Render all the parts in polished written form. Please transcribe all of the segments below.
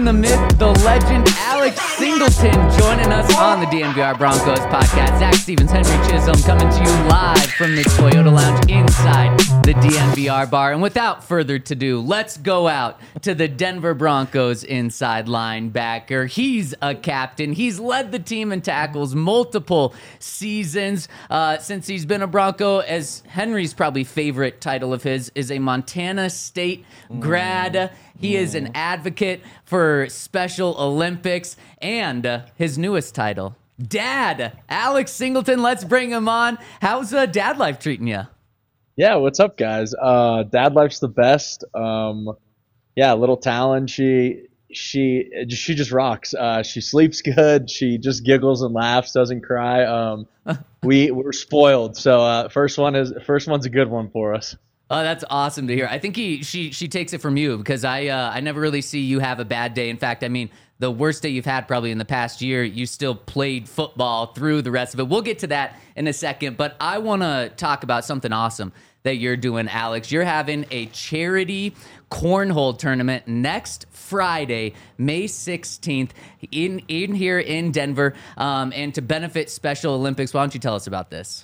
man, the myth, the legend, Alex Singleton, joining us on the DNVR Broncos podcast. Zach Stevens, Henry Chisholm, coming to you live from the Toyota Lounge inside the DNVR bar. And without further ado, let's go out to the Denver Broncos inside linebacker. He's a captain. He's led the team in tackles multiple seasons since he's been a Bronco. As Henry's probably favorite title of his is a Montana State grad. He is an advocate for Special Olympics, and his newest title, Dad. Alex Singleton, let's bring him on. How's dad life treating you? Yeah, what's up, guys? Dad life's the best. Little Talon, she just rocks. She sleeps good. She just giggles and laughs, doesn't cry. We're spoiled. So first one's a good one for us. Oh, that's awesome to hear. I think she takes it from you, because I never really see you have a bad day. In fact, I mean, the worst day you've had probably in the past year, you still played football through the rest of it. We'll get to that in a second, but I want to talk about something awesome that you're doing, Alex. You're having a charity cornhole tournament next Friday, May 16th, in here in Denver, and to benefit Special Olympics. Why don't you tell us about this?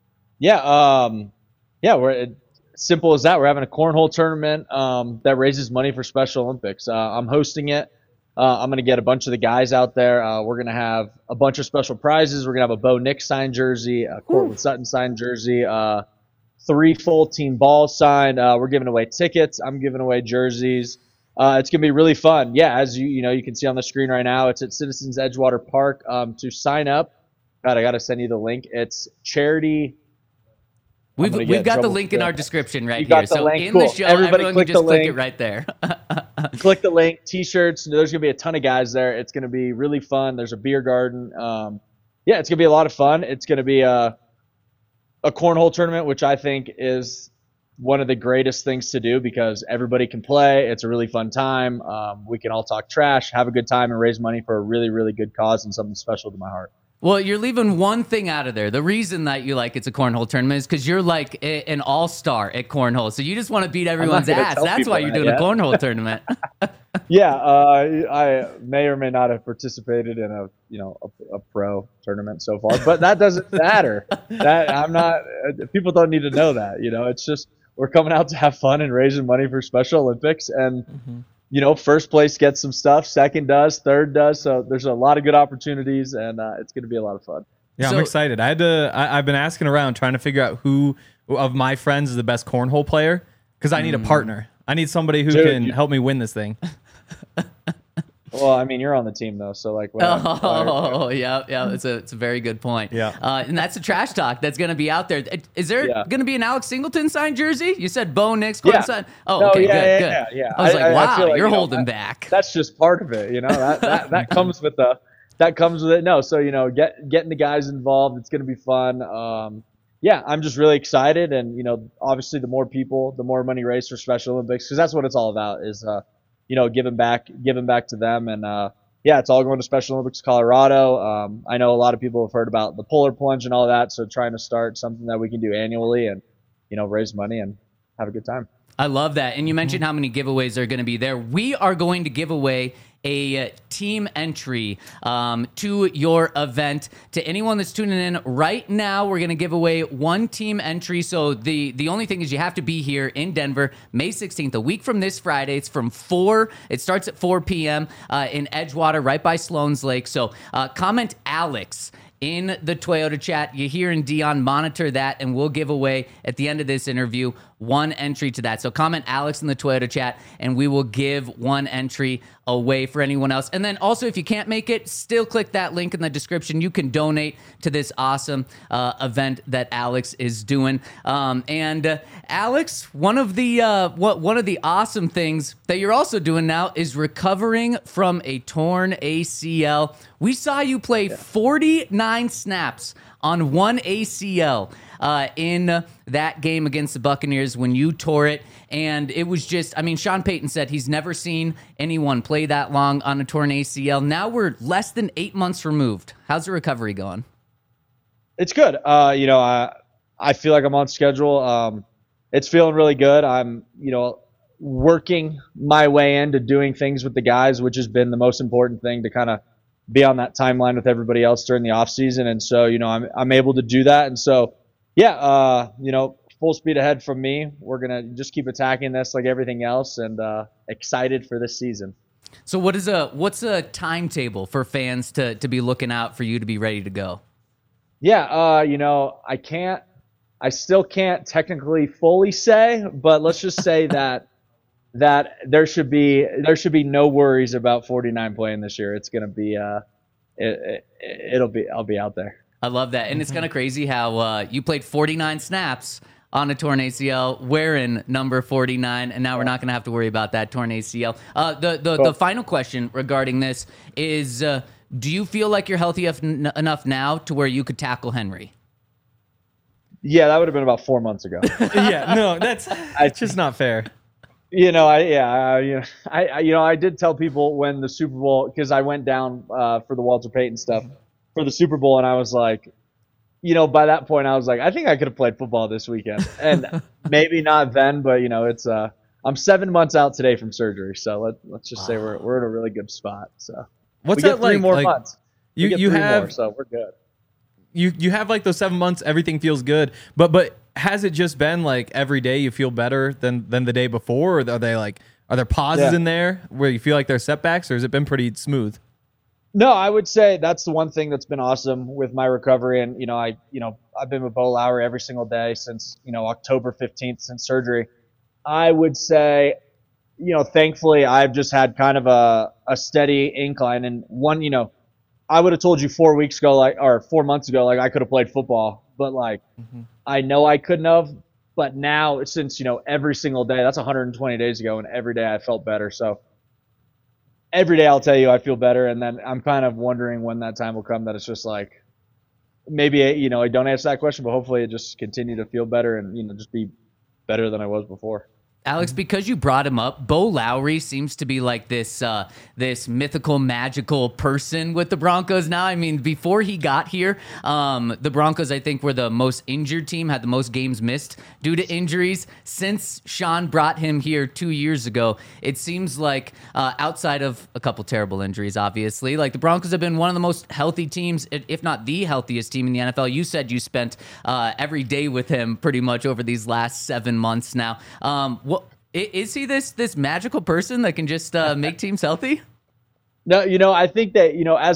We're simple as that. We're having a cornhole tournament that raises money for Special Olympics. I'm hosting it. I'm going to get a bunch of the guys out there. We're going to have a bunch of special prizes. We're going to have a Bo Nix signed jersey, a Cortland Sutton signed jersey, 3 full team balls signed. We're giving away tickets. I'm giving away jerseys. It's going to be really fun. Yeah, as you can see on the screen right now, it's at Citizens Edgewater Park. To sign up, God, I got to send you the link. It's charity. We've got the link in our description right here. So link. In cool. the show, everybody everyone can just click it right there. Click the link. T-shirts. There's going to be a ton of guys there. It's going to be really fun. There's a beer garden. It's going to be a lot of fun. It's going to be a cornhole tournament, which I think is one of the greatest things to do because everybody can play. It's a really fun time. We can all talk trash, have a good time, and raise money for a really, really good cause and something special to my heart. Well, you're leaving one thing out of there. The reason that you like it's a cornhole tournament is because you're like an all-star at cornhole. So you just want to beat everyone's ass. That's why you're doing a cornhole tournament. I may or may not have participated in a pro tournament so far, but that doesn't matter. People don't need to know that. It's just we're coming out to have fun and raising money for Special Olympics, and first place gets some stuff, second does, third does. So there's a lot of good opportunities, and it's going to be a lot of fun. Yeah, I'm excited. I've been asking around trying to figure out who of my friends is the best cornhole player because I need a partner. I need somebody who can help me win this thing. Well, I mean, you're on the team though, so like. Yeah. It's a very good point. Yeah. And that's the trash talk that's going to be out there. Is there going to be an Alex Singleton signed jersey? You said Bo Nix, signed. Oh, okay, good. Yeah. I was wow, I feel like, you're holding back. That's just part of it, That comes with it. No, so getting the guys involved, it's going to be fun. I'm just really excited, and obviously the more people, the more money raised for Special Olympics, because that's what it's all about. Is giving back to them. And it's all going to Special Olympics Colorado. I know a lot of people have heard about the polar plunge and all that. So trying to start something that we can do annually and, raise money and have a good time. I love that. And you mentioned how many giveaways are going to be there. We are going to give away a team entry to your event. To anyone that's tuning in right now, we're going to give away one team entry. So the only thing is you have to be here in Denver, May 16th, a week from this Friday. It's from 4. It starts at 4 p.m. In Edgewater, right by Sloan's Lake. So comment Alex in the Toyota chat. You hear in Dion, monitor that, and we'll give away at the end of this interview one entry to that. So comment Alex in the Toyota chat, and we will give one entry away for anyone else. And then also, if you can't make it, still click that link in the description. You can donate to this awesome event that Alex is doing. Alex, one of the awesome things that you're also doing now is recovering from a torn ACL. We saw you play 49 snaps on one ACL in that game against the Buccaneers when you tore it. And it was just, Sean Payton said he's never seen anyone play that long on a torn ACL. Now we're less than 8 months removed. How's the recovery going? It's good. I feel like I'm on schedule. It's feeling really good. I'm, working my way into doing things with the guys, which has been the most important thing to kind of be on that timeline with everybody else during the off season. And so, I'm able to do that. And so, yeah, full speed ahead from me. We're going to just keep attacking this like everything else, and excited for this season. So what's a timetable for fans to be looking out for you to be ready to go? Yeah, I still can't technically fully say, but let's just say that there should be no worries about 49 playing this year. It's going to be I'll be out there. I love that. And it's kind of crazy how you played 49 snaps on a torn ACL, wearing number 49, and now we're not going to have to worry about that torn ACL. The final question regarding this is, do you feel like you're healthy enough now to where you could tackle Henry? Yeah, that would have been about 4 months ago. Yeah, no, it's just not fair. I did tell people when the Super Bowl, because I went down for the Walter Payton stuff for the Super Bowl, and I was like, by that point, I was like, I think I could have played football this weekend, and maybe not then, but it's I'm 7 months out today from surgery, so let's just say we're in a really good spot. So what's that like? 3 more months. You have more, so we're good. You have like those 7 months, everything feels good, but has it just been like every day you feel better than the day before, or are there pauses in there where you feel like there's setbacks, or has it been pretty smooth? No, I would say that's the one thing that's been awesome with my recovery. And, I've been with Bo Lowry every single day since, October 15th, since surgery. I would say, thankfully I've just had kind of a steady incline. And one, I would have told you 4 weeks ago, or 4 months ago, I could have played football, but I know I couldn't have. But now, since, every single day, that's 120 days ago, and every day I felt better. So every day I'll tell you I feel better, and then I'm kind of wondering when that time will come that it's just maybe I don't answer that question, but hopefully it just continue to feel better and just be better than I was before. Alex, because you brought him up, Bo Lowry seems to be like this mythical, magical person with the Broncos now. I mean, before he got here, the Broncos, I think, were the most injured team, had the most games missed due to injuries. Since Sean brought him here 2 years ago, it seems like outside of a couple terrible injuries, obviously, like the Broncos have been one of the most healthy teams, if not the healthiest team in the NFL. You said you spent every day with him pretty much over these last 7 months now. Is he this magical person that can just make teams healthy? No, I think that,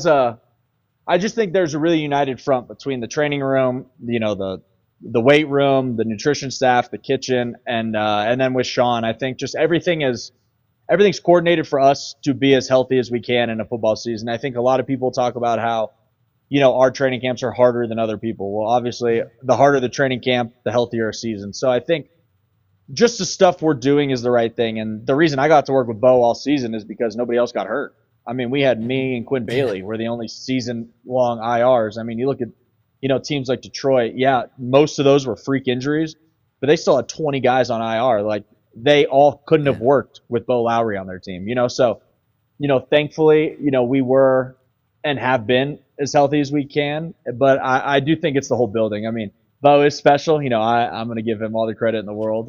I just think there's a really united front between the training room, the weight room, the nutrition staff, the kitchen, and then with Sean. I think just everything's coordinated for us to be as healthy as we can in a football season. I think a lot of people talk about how, our training camps are harder than other people. Well, obviously, the harder the training camp, the healthier a season. So I think just the stuff we're doing is the right thing. And the reason I got to work with Bo all season is because nobody else got hurt. I mean, we had me and Quinn Bailey were the only season-long IRs. I mean, you look at, teams like Detroit, yeah, most of those were freak injuries, but they still had 20 guys on IR. They all couldn't have worked with Bo Lowry on their team, So, thankfully, we were and have been as healthy as we can. But I do think it's the whole building. I mean, Bo is special. I'm going to give him all the credit in the world.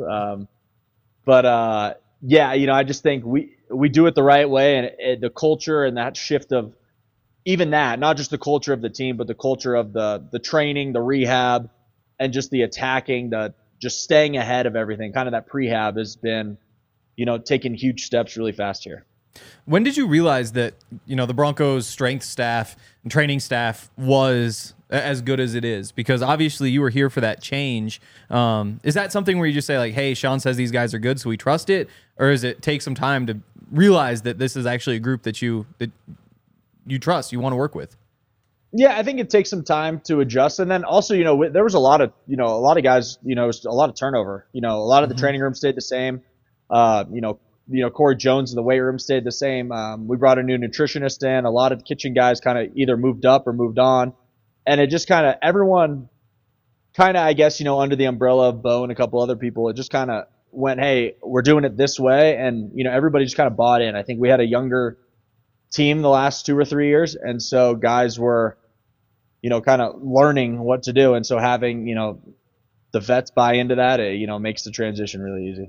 I just think we do it the right way, and the culture and that shift of even that, not just the culture of the team, but the culture of the training, the rehab, and just the attacking, just staying ahead of everything. Kind of that prehab has been, taking huge steps really fast here. When did you realize that, the Broncos strength staff and training staff was as good as it is? Because obviously you were here for that change. Is that something where you just say like, hey, Sean says these guys are good, so we trust it? Or does it take some time to realize that this is actually a group that you trust, you want to work with? Yeah, I think it takes some time to adjust. And then also, there was a lot of guys, a lot of turnover. A lot of the training room stayed the same. Corey Jones in the weight room stayed the same. We brought a new nutritionist in. A lot of the kitchen guys kind of either moved up or moved on. And it just kind of, everyone kind of, I guess, under the umbrella of Bo and a couple other people, it just kind of went, hey, we're doing it this way. And, everybody just kind of bought in. I think we had a younger team the last 2 or 3 years. And so guys were, kind of learning what to do. And so having, the vets buy into that, it, makes the transition really easy.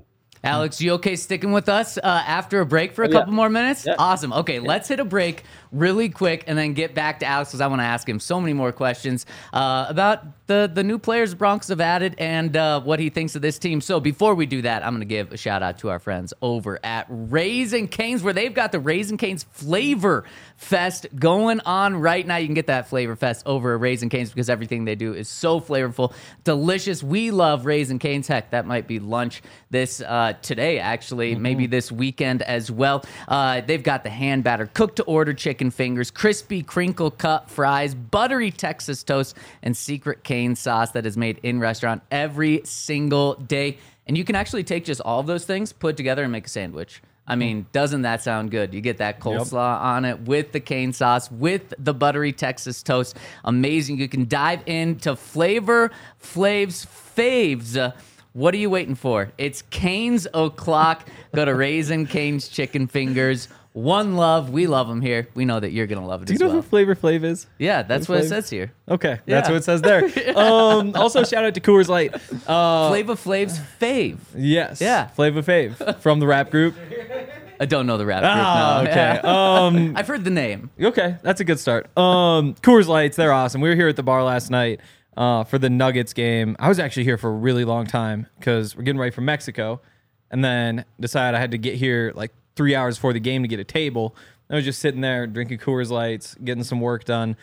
Alex, you okay sticking with us after a break for a couple more minutes? Yeah. Awesome. Okay, let's hit a break really quick and then get back to Alex because I want to ask him so many more questions about the new players the Broncos have added and what he thinks of this team. So before we do that, I'm going to give a shout out to our friends over at Raising Cane's where they've got the Raising Cane's Flavor Fest going on right now. You can get that Flavor Fest over at Raising Cane's because everything they do is so flavorful, delicious. We love Raising Cane's. Heck, that might be lunch this today, actually, maybe this weekend as well. They've got the hand battered, cooked to order chicken fingers, crispy crinkle cut fries, buttery Texas toast, and secret cane sauce that is made in restaurant every single day. And you can actually take just all of those things, put it together, and make a sandwich. I mean, doesn't that sound good? You get that coleslaw on it with the cane sauce, with the buttery Texas toast. Amazing. You can dive into Flavor Flav's faves. What are you waiting for? It's Cane's O'Clock. Go to Raisin Cane's Chicken Fingers. One love. We love them here. We know that you're going to love it Do you as know well. who Flavor Flav is? Yeah, that's what it Flav? says here. Okay, that's Yeah. what it says there. Also, shout out to Coors Light. Flavor Flav's fave. Yes. Yeah. Flavor Fave from the rap group. I don't know the rap group. Ah, no. okay. I've heard the name. Okay, that's a good start. Coors Lights, they're awesome. We were here at the bar last night for the Nuggets game. I was actually here for a really long time because we're getting ready for Mexico, and then decided I had to get here like 3 hours before the game to get a table. I was just sitting there drinking Coors Lights, getting some work done.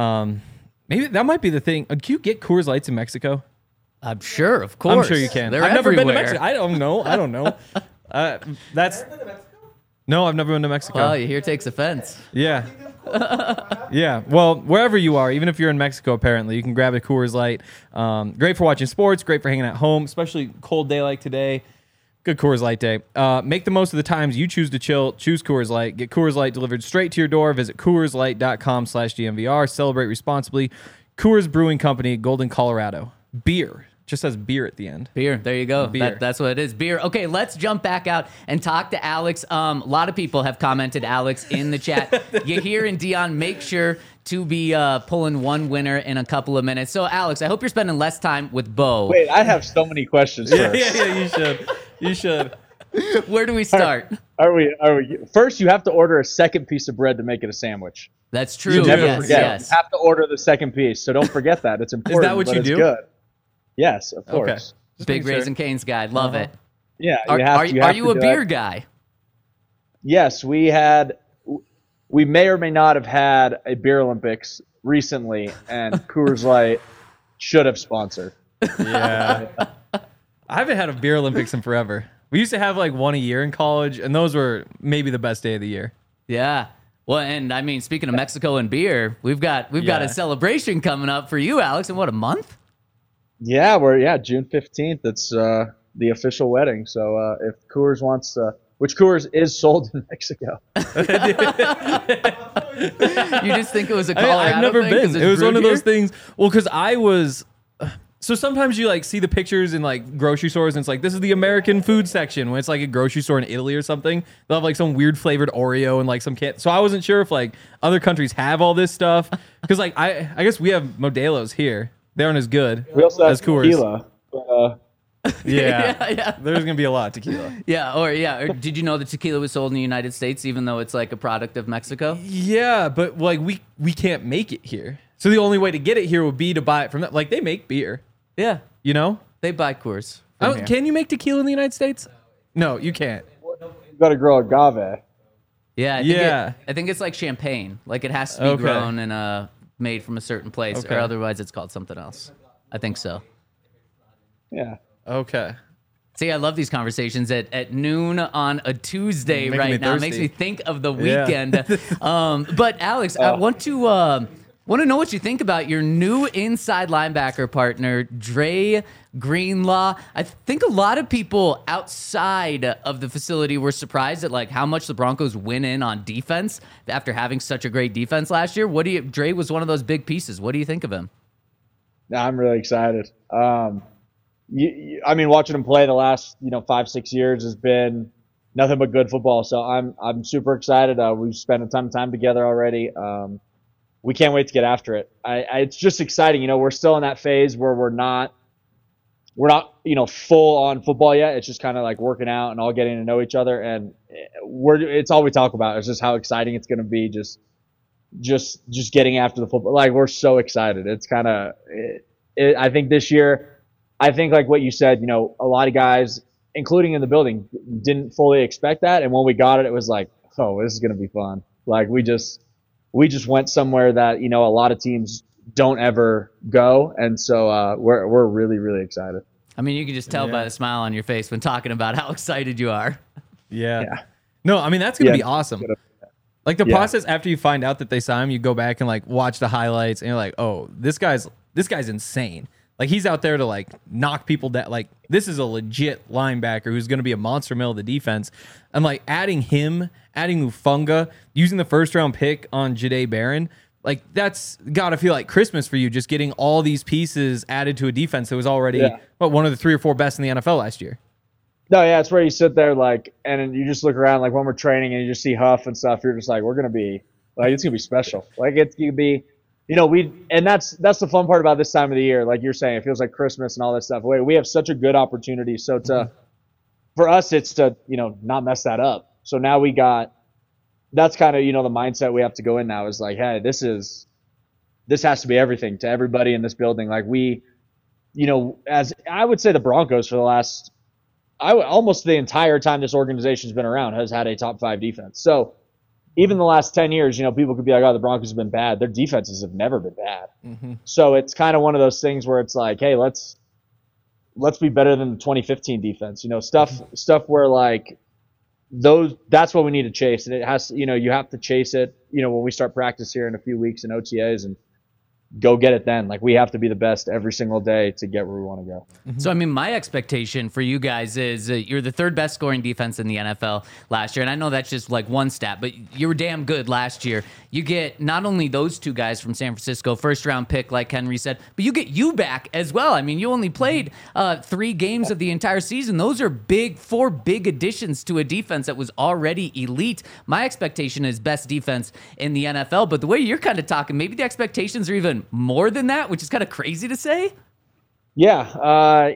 Maybe that might be the thing. Can you get Coors Lights in Mexico? I'm sure, of course. I'm sure you can. They're I've never been to everywhere. Mexico. I don't know. That's no, I've never been to Mexico. Well, you hear takes offense. Yeah. Yeah. Well, wherever you are, even if you're in Mexico, apparently, you can grab a Coors Light. Great for watching sports, great for hanging at home, especially cold day like today. Good Coors Light day. Make the most of the times you choose to chill. Choose Coors Light. Get Coors Light delivered straight to your door. Visit CoorsLight.com/DMVR. Celebrate responsibly. Coors Brewing Company, Golden, Colorado. Beer. Just says beer at the end. Beer. There you go. Beer. That's what it is. Beer. Okay, let's jump back out and talk to Alex. A lot of people have commented, Alex, in the chat. Yahir and Dion, make sure to be pulling one winner in a couple of minutes. So, Alex, I hope you're spending less time with Bo. Wait, I have so many questions first. Yeah, you should. You should. Where do we start? Are we? First, you have to order a second piece of bread to make it a sandwich. That's true. You never Yes, forget. yes. You have to order the second piece, so don't forget that. It's important. what but you it's do? Good. Yes, of course. Okay. Just Big making sure. Raisin Cane's guy. Love it. Yeah, Are, you have are, to, you are have you to a do beer it. guy? Yes, we may or may not have had a beer Olympics recently, and Coors Light should have sponsored. Yeah. I haven't had a beer Olympics in forever. We used to have like one a year in college, and those were maybe the best day of the year. Yeah. Well, and I mean, speaking of Mexico and beer, we've got Yeah. a celebration coming up for you, Alex, in what, a month? Yeah, June 15th. It's the official wedding. So if Coors wants to, which Coors is sold in Mexico. You just think it was a Colorado I've never thing 'cause been. it's It was one brewed of those here? things. Well, because I was. So sometimes you like see the pictures in like grocery stores, and it's like this is the American food section. When it's like a grocery store in Italy or something, they'll have like some weird flavored Oreo and like some can. So I wasn't sure if like other countries have all this stuff because like I guess we have Modelo's here. They aren't as good We also have as Coors. tequila. Yeah. Yeah. There's gonna be a lot of tequila. Yeah, or did you know that tequila was sold in the United States, even though it's like a product of Mexico? Yeah, but like we can't make it here. So the only way to get it here would be to buy it from them. Like they make beer, Yeah, you know. they buy Coors. from here. Can you make tequila in the United States? No, you can't. You got to grow agave. Yeah, I think Yeah. I think it's like champagne. Like it has to be Okay. grown and made from a certain place, Okay. or otherwise it's called something else. I think so. Yeah. Okay. See, I love these conversations at noon on a Tuesday Making me right now. It thirsty. makes me think of the Yeah. weekend. But Alex, I want to know what you think about your new inside linebacker partner, Dre Greenlaw. I think a lot of people outside of the facility were surprised at like how much the Broncos win in on defense after having such a great defense last year. Dre was one of those big pieces. What do you think of him? I'm really excited. I mean, watching him play the last 5-6 years has been nothing but good football. So I'm super excited. We've spent a ton of time together already. We can't wait to get after it. It's just exciting. We're still in that phase where we're not we're not, full on football yet. It's just kind of like working out and all getting to know each other. And it's all we talk about. It's just how exciting it's going to be. Just getting after the football. Like, we're so excited. It's kind of, I think this year, I think like what you said, a lot of guys, including in the building, didn't fully expect that. And when we got it, it was like, oh, this is going to be fun. Like, we just went somewhere that, a lot of teams don't ever go. And so we're really, really excited. I mean, you can just tell by the smile on your face when talking about how excited you are. Yeah. No, I mean, that's going to be awesome. Like, the process after you find out that they sign him, you go back and like watch the highlights and you're like, oh, this guy's insane. Like, he's out there to like knock people down. Like, this is a legit linebacker who's going to be a monster middle of the defense. And like adding Ufunga, using the first round pick on Jahdae Barron, like, that's got to feel like Christmas for you, just getting all these pieces added to a defense that was already one of the 3 or 4 best in the NFL last year. No, yeah, it's where you sit there like, and you just look around like when we're training and you just see Huff and stuff. You're just like, we're gonna be like, it's gonna be special. Like, it's gonna be, and that's the fun part about this time of the year. Like you're saying, it feels like Christmas and all this stuff. We have such a good opportunity. So for us, it's to not mess that up. So now that's kind of the mindset we have to go in now is like, hey, this has to be everything to everybody in this building. Like, we, as I would say, the Broncos for the last. Almost the entire time this organization's been around has had a top 5 defense. So even the last 10 years, people could be like, oh, the Broncos have been bad. Their defenses have never been bad. Mm-hmm. So it's kind of one of those things where it's like, hey, let's be better than the 2015 defense. Stuff where like that's what we need to chase. And it has, you have to chase it, when we start practice here in a few weeks in OTAs and go get it then. Like, we have to be the best every single day to get where we want to go. So, I mean, my expectation for you guys is you're the 3rd best scoring defense in the NFL last year. And I know that's just like one stat, but you were damn good last year. You get not only those 2 guys from San Francisco, first round pick, like Henry said, but you get you back as well. I mean, you only played 3 games of the entire season. Those are 4 big additions to a defense that was already elite. My expectation is best defense in the NFL, but the way you're kind of talking, maybe the expectations are even more than that, which is kind of crazy to say. Yeah,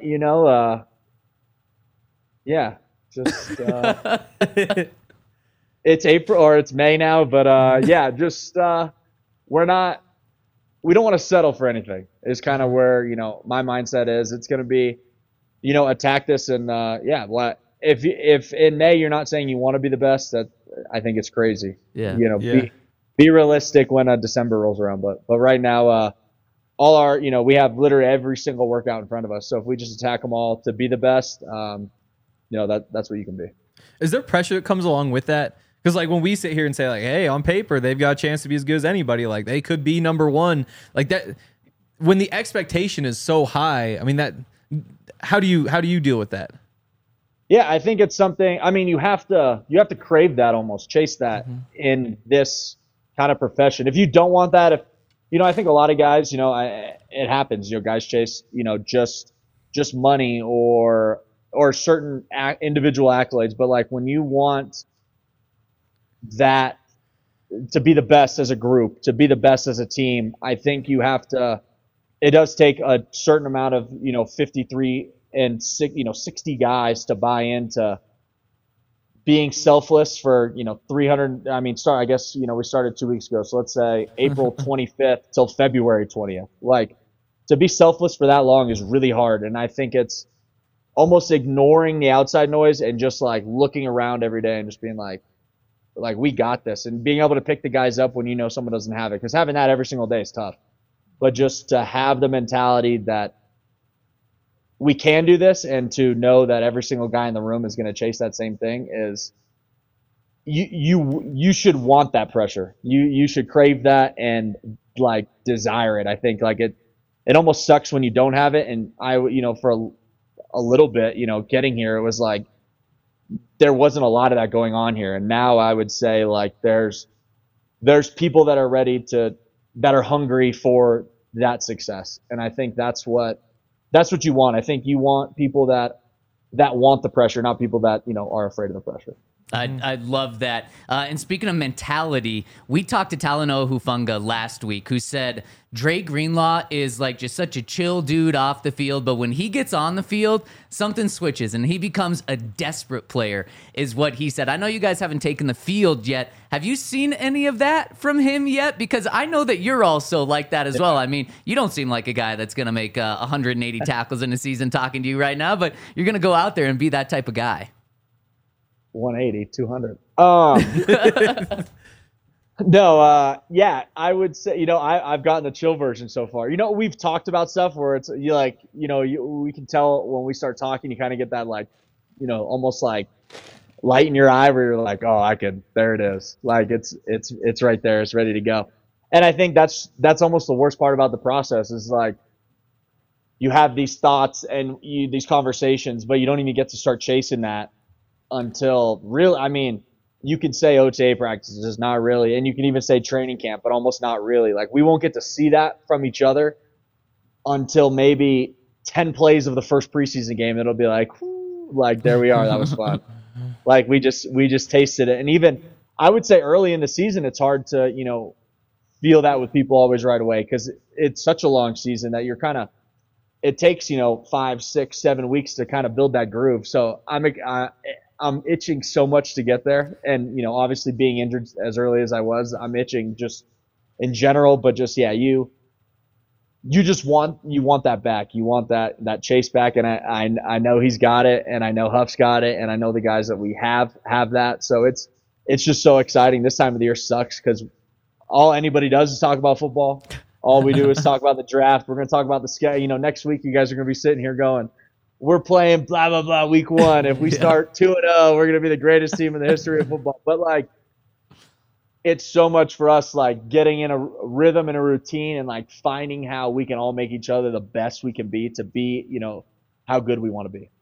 just it's April or it's May now, but we don't want to settle for anything. Is kind of where my mindset is. It's going to be, attack this and if in May you're not saying you want to be the best, that I think it's crazy. Yeah, Be realistic when December rolls around, but right now, all our, we have literally every single workout in front of us. So if we just attack them all to be the best, that's what you can be. Is there pressure that comes along with that? Because like when we sit here and say like, hey, on paper they've got a chance to be as good as anybody, like they could be number 1, like that. When the expectation is so high, I mean, that how do you deal with that? Yeah, I think it's something. I mean, you have to crave that, almost chase that in this kind of profession. If you don't want that, I think a lot of guys, it happens. Guys chase, just money or certain individual accolades. But like when you want that to be the best as a group, to be the best as a team, I think you have to. It does take a certain amount of 53 and 60 guys to buy into being selfless for 300. I mean, I guess we started 2 weeks ago, so let's say April 25th till February 20th. Like, to be selfless for that long is really hard, and I think it's almost ignoring the outside noise and just like looking around every day and just being like we got this, and being able to pick the guys up when someone doesn't have it, because having that every single day is tough. But just to have the mentality that we can do this, and to know that every single guy in the room is going to chase that same thing, is you should want that pressure. You should crave that and like desire it. I think like it almost sucks when you don't have it. And I, for a little bit, getting here, it was like there wasn't a lot of that going on here. And now I would say like there's people that are that are hungry for that success. And I think that's what you want. I think you want people that want the pressure, not people that, are afraid of the pressure. I love that. And speaking of mentality, we talked to Talanoa Hufanga last week, who said Dre Greenlaw is like just such a chill dude off the field, but when he gets on the field, something switches and he becomes a desperate player, is what he said. I know you guys haven't taken the field yet. Have you seen any of that from him yet? Because I know that you're also like that as well. I mean, you don't seem like a guy that's going to make 180 tackles in a season talking to you right now, but you're going to go out there and be that type of guy. 180, 200. No, yeah, I would say, I've gotten the chill version so far. We've talked about stuff where it's we can tell when we start talking, you kind of get that almost like light in your eye where you're like, oh, there it is. Like it's right there. It's ready to go. And I think that's almost the worst part about the process is like you have these thoughts and these conversations, but you don't even get to start chasing that until you can say OTA practices, not really. And you can even say training camp, but almost not really. Like we won't get to see that from each other until maybe 10 plays of the first preseason game. It'll be like, whoo, like there we are. That was fun. Like we just tasted it. And even I would say early in the season, it's hard to, feel that with people always right away. Cause it's such a long season that you're it takes, 5, 6, 7 weeks to kind of build that groove. So I'm itching so much to get there. And, obviously being injured as early as I was, I'm itching just in general, but just, yeah, you just want that back. You want that chase back. And I know he's got it and I know Huff's got it and I know the guys that we have that. So it's just so exciting. This time of the year sucks because all anybody does is talk about football. All we do is talk about the draft. We're going to talk about the schedule. Next week you guys are going to be sitting here going, we're playing blah, blah, blah week 1. If we start 2-0, we're going to be the greatest team in the history of football. But, it's so much for us, getting in a rhythm and a routine and, finding how we can all make each other the best we can be to be, how good we want to be.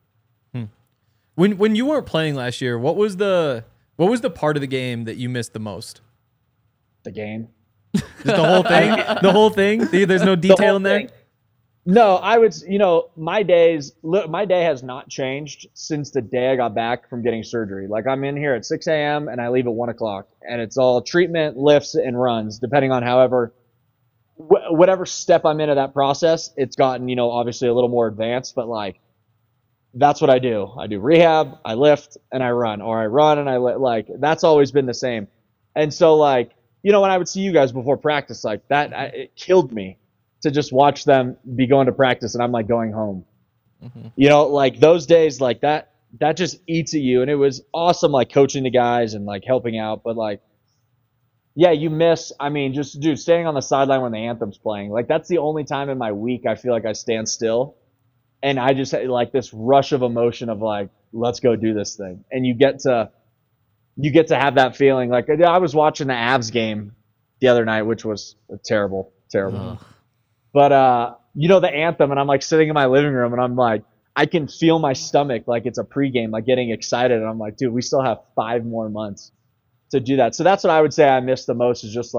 When you weren't playing last year, what was the part of the game that you missed the most? The game. Just the whole thing? The whole thing? There's no detail in there? Thing. No, I would, my day has not changed since the day I got back from getting surgery. I'm in here at 6 a.m. and I leave at 1 o'clock and it's all treatment, lifts and runs, depending on whatever step I'm in of that process. It's gotten, obviously a little more advanced, but that's what I do. I do rehab, I lift and I run, or I run and I that's always been the same. And so when I would see you guys before practice it killed me to just watch them be going to practice and I'm going home. Mm-hmm. Those days that just eats at you. And it was awesome, coaching the guys and helping out. But yeah, you miss, just dude, standing on the sideline when the anthem's playing, that's the only time in my week I feel like I stand still. And I just this rush of emotion of let's go do this thing. And you get to have that feeling. I was watching the Avs game the other night, which was terrible. Ugh. But, the anthem, and I'm sitting in my living room and I'm I can feel my stomach it's a pregame, getting excited. And I'm dude, we still have 5 more months to do that. So that's what I would say I miss the most is just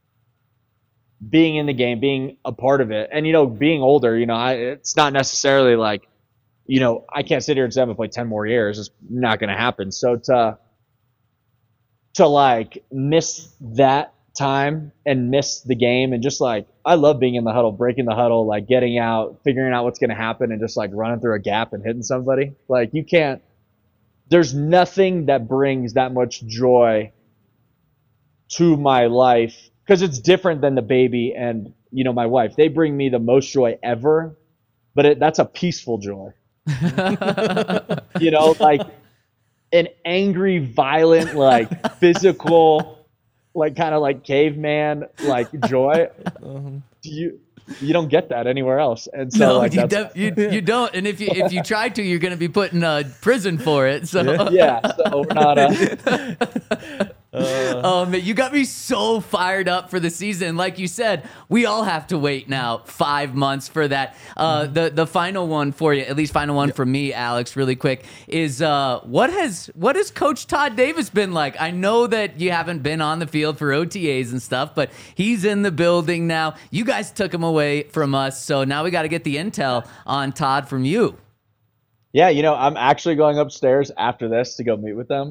being in the game, being a part of it. And, being older, it's not necessarily I can't sit here and say I'm going to play 10 more years. It's not going to happen. So to miss that time and miss the game and just I love being in the huddle, breaking the huddle, getting out, figuring out what's going to happen and just running through a gap and hitting somebody. There's nothing that brings that much joy to my life because it's different than the baby and my wife. They bring me the most joy ever, but that's a peaceful joy. An angry, violent, physical, kind of caveman joy. You don't get that anywhere else. And so you don't. And if you try to, you're going to be put in prison for it. So yeah, so we're not. You got me so fired up for the season. Like you said, we all have to wait now 5 months for that. The final one for you, at least final one for me, Alex, really quick, is what has Coach Todd Davis been like? I know that you haven't been on the field for OTAs and stuff, but he's in the building now. You guys took him away from us, so now we got to get the intel on Todd from you. Yeah, I'm actually going upstairs after this to go meet with them.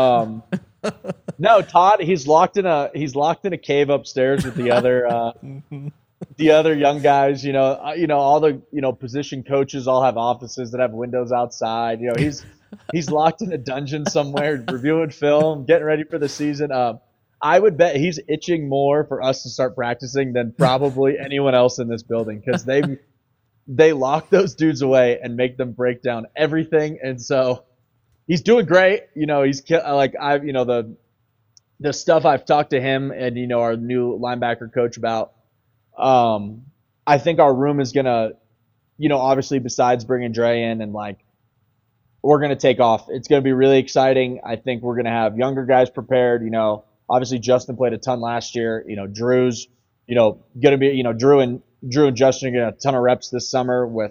No, Todd, he's locked in a cave upstairs with the other young guys. All the position coaches all have offices that have windows outside. He's locked in a dungeon somewhere, reviewing film, getting ready for the season. I would bet he's itching more for us to start practicing than probably anyone else in this building, because they lock those dudes away and make them break down everything. And so he's doing great. He's like the stuff I've talked to him and our new linebacker coach about. I think our room is gonna, obviously besides bringing Dre in and we're gonna take off. It's gonna be really exciting. I think we're gonna have younger guys prepared. Obviously Justin played a ton last year. Drew's, gonna be, Drew and Justin are gonna have a ton of reps this summer with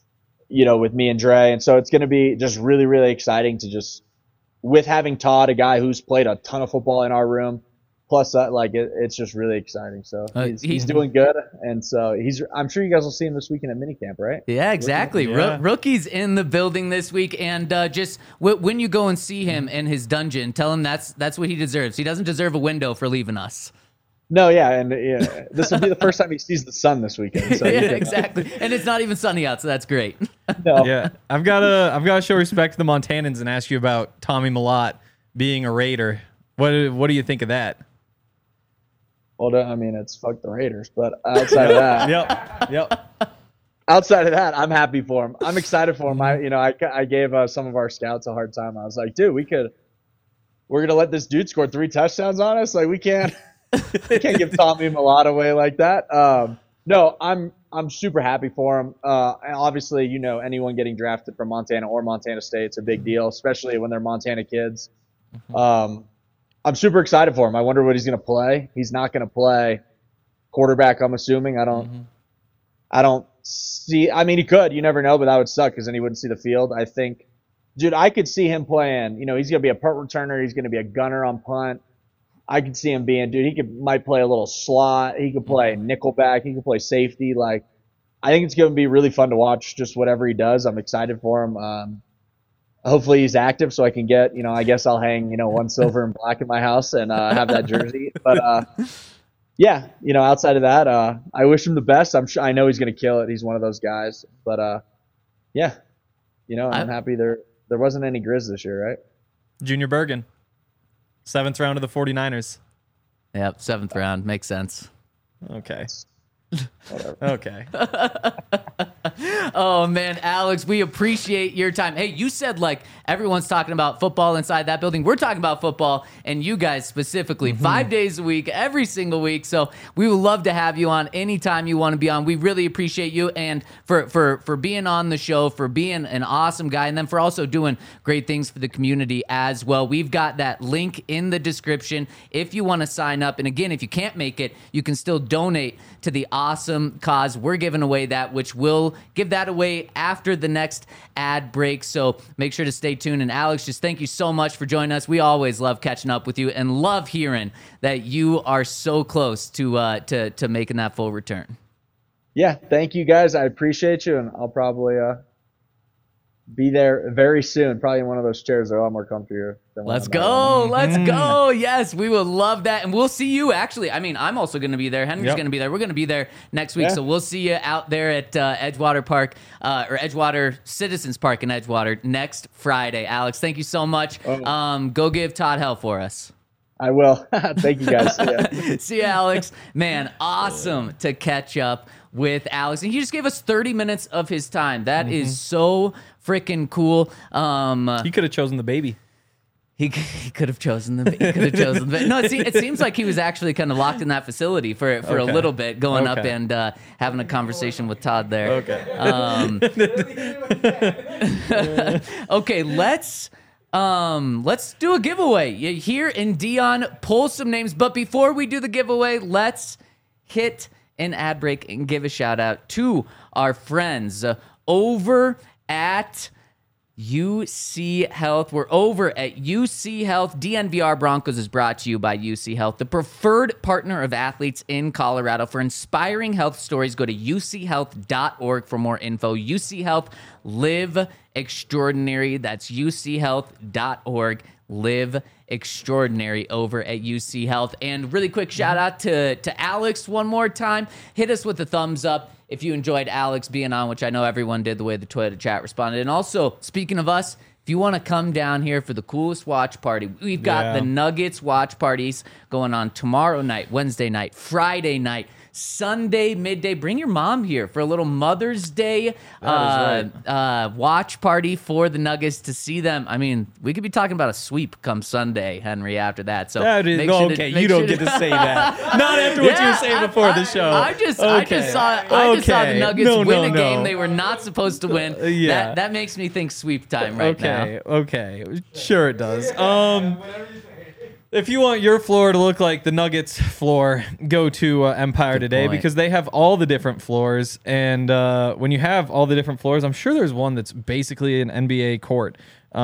me and Dre, and so it's gonna be just really, really exciting to just, with having Todd, a guy who's played a ton of football in our room, plus it's just really exciting. So he's doing good, and so I'm sure you guys will see him this weekend at minicamp, right? Yeah, exactly. Yeah. Rookie's in the building this week, and just when you go and see him in his dungeon, tell him that's what he deserves. He doesn't deserve a window for leaving us. No, yeah, and this will be the first time he sees the sun this weekend. So yeah, exactly. And it's not even sunny out, so that's great. No. Yeah, I've got to show respect to the Montanans and ask you about Tommy Mellott being a Raider. What do you think of that? Well, I mean, it's fuck the Raiders, but outside of that, Yep. outside of that, I'm happy for him. I'm excited for him. I gave some of our scouts a hard time. I was like, dude, we're gonna let this dude score 3 touchdowns on us. Like, we can't give Tommy Mellott away like that. No, I'm super happy for him. And obviously, anyone getting drafted from Montana or Montana State, it's a big deal, especially when they're Montana kids. I'm super excited for him. I wonder what he's going to play. He's not going to play quarterback, I'm assuming. I don't see. I mean, he could. You never know, but that would suck because then he wouldn't see the field. I think, dude, I could see him playing. He's going to be a punt returner. He's going to be a gunner on punt. I could see him being, dude, might play a little slot. He could play nickelback. He could play safety. I think it's going to be really fun to watch just whatever he does. I'm excited for him. Hopefully he's active so I can get, I guess I'll hang, one silver and black in my house and have that jersey. But, yeah, outside of that, I wish him the best. I know he's going to kill it. He's one of those guys. But, yeah, I'm happy there wasn't any Grizz this year, right? Junior Bergen, 7th round of the 49ers. Yep, 7th round. Makes sense. Okay. Whatever. Okay. Oh, man, Alex, we appreciate your time. Hey, you said everyone's talking about football inside that building. We're talking about football, and you guys specifically, 5 days a week, every single week. So we would love to have you on anytime you want to be on. We really appreciate you and for being on the show, for being an awesome guy, and then for also doing great things for the community as well. We've got that link in the description if you want to sign up. And again, if you can't make it, you can still donate to the awesome cause. We're giving away that, which we'll give that away after the next ad break. So make sure to stay tuned. And Alex, just thank you so much for joining us. We always love catching up with you and love hearing that you are so close to making that full return. Yeah, thank you guys. I appreciate you, and I'll probably be there very soon. Probably in one of those chairs that are a lot more comfier than Let's go. Let's go. Yes, we would love that. And we'll see you actually. I mean, I'm also going to be there. Henry's going to be there. We're going to be there next week. Yeah. So we'll see you out there at Edgewater Park or Edgewater Citizens Park in Edgewater next Friday. Alex, thank you so much. Go give Todd hell for us. I will. Thank you guys. See ya. See you, Alex. Man, awesome to catch up with Alex. And he just gave us 30 minutes of his time. That is so freaking cool. He could have chosen the baby. He could have chosen the. No, it seems like he was actually kind of locked in that facility for a little bit, going up and having a conversation with Todd there. Okay, let's do a giveaway here in Dion. Pull some names, but before we do the giveaway, let's hit an ad break and give a shout out to our friends over at UC Health. We're over at UC Health. DNVR Broncos is brought to you by UC Health, the preferred partner of athletes in Colorado. For inspiring health stories, go to uchealth.org for more info. UC Health, Live Extraordinary. That's uchealth.org. Live Extraordinary over at UC Health. And really quick shout out to Alex one more time. Hit us with a thumbs up if you enjoyed Alex being on, which I know everyone did, the way the Twitter chat responded. And also, speaking of us, if you want to come down here for the coolest watch party, we've got the Nuggets watch parties going on tomorrow night, Wednesday night, Friday night, Sunday midday. Bring your mom here for a little Mother's Day watch party for the Nuggets to see them. I mean, we could be talking about a sweep come Sunday, Henry, after that. So you don't get to say that. Not after what you were saying before the show. I just saw the Nuggets win a game they were not supposed to win. That makes me think sweep time right now. Okay. Sure it does. If you want your floor to look like the Nuggets floor, go to Empire today because they have all the different floors. And when you have all the different floors, I'm sure there's one that's basically an NBA court.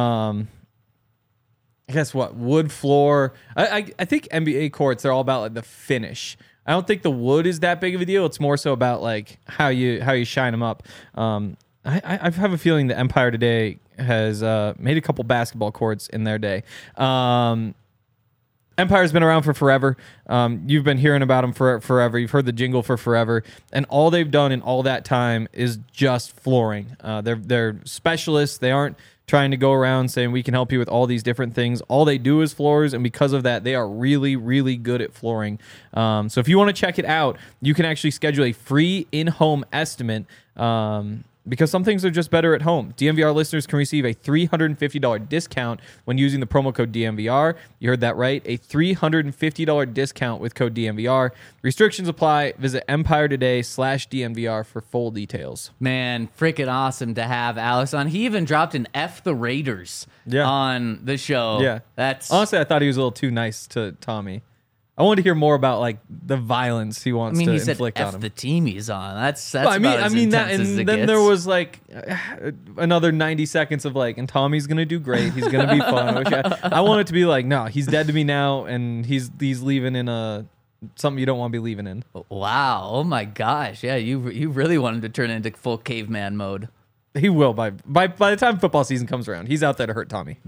Guess what? Wood floor. I think NBA courts, they're all about like the finish. I don't think the wood is that big of a deal. It's more so about like how you shine them up. I have a feeling that Empire today has made a couple basketball courts in their day. Empire's been around for forever. You've been hearing about them for forever. You've heard the jingle for forever. And all they've done in all that time is just flooring. They're specialists. They aren't trying to go around saying we can help you with all these different things. All they do is floors, and because of that, they are really, really good at flooring. So if you want to check it out, you can actually schedule a free in-home estimate because some things are just better at home. DNVR listeners can receive a $350 discount when using the promo code DNVR. You heard that right, a $350 discount with code DNVR. Restrictions apply. Visit empiretoday.com/DNVR for full details. Man, freaking awesome to have Alex on. He even dropped an F the Raiders on the show. Yeah. Honestly, I thought he was a little too nice to Tommy. I wanted to hear more about like the violence he wants to inflict on him. The team he's on. That's well, about as intense that, and as it then gets. there was like another 90 seconds of like, and Tommy's gonna do great. He's gonna be fun. I want it to be like, no, he's dead to me now, and he's leaving in something you don't want to be leaving in. Wow! Oh my gosh! Yeah, you really want him to turn into full caveman mode. He will by the time football season comes around. He's out there to hurt Tommy.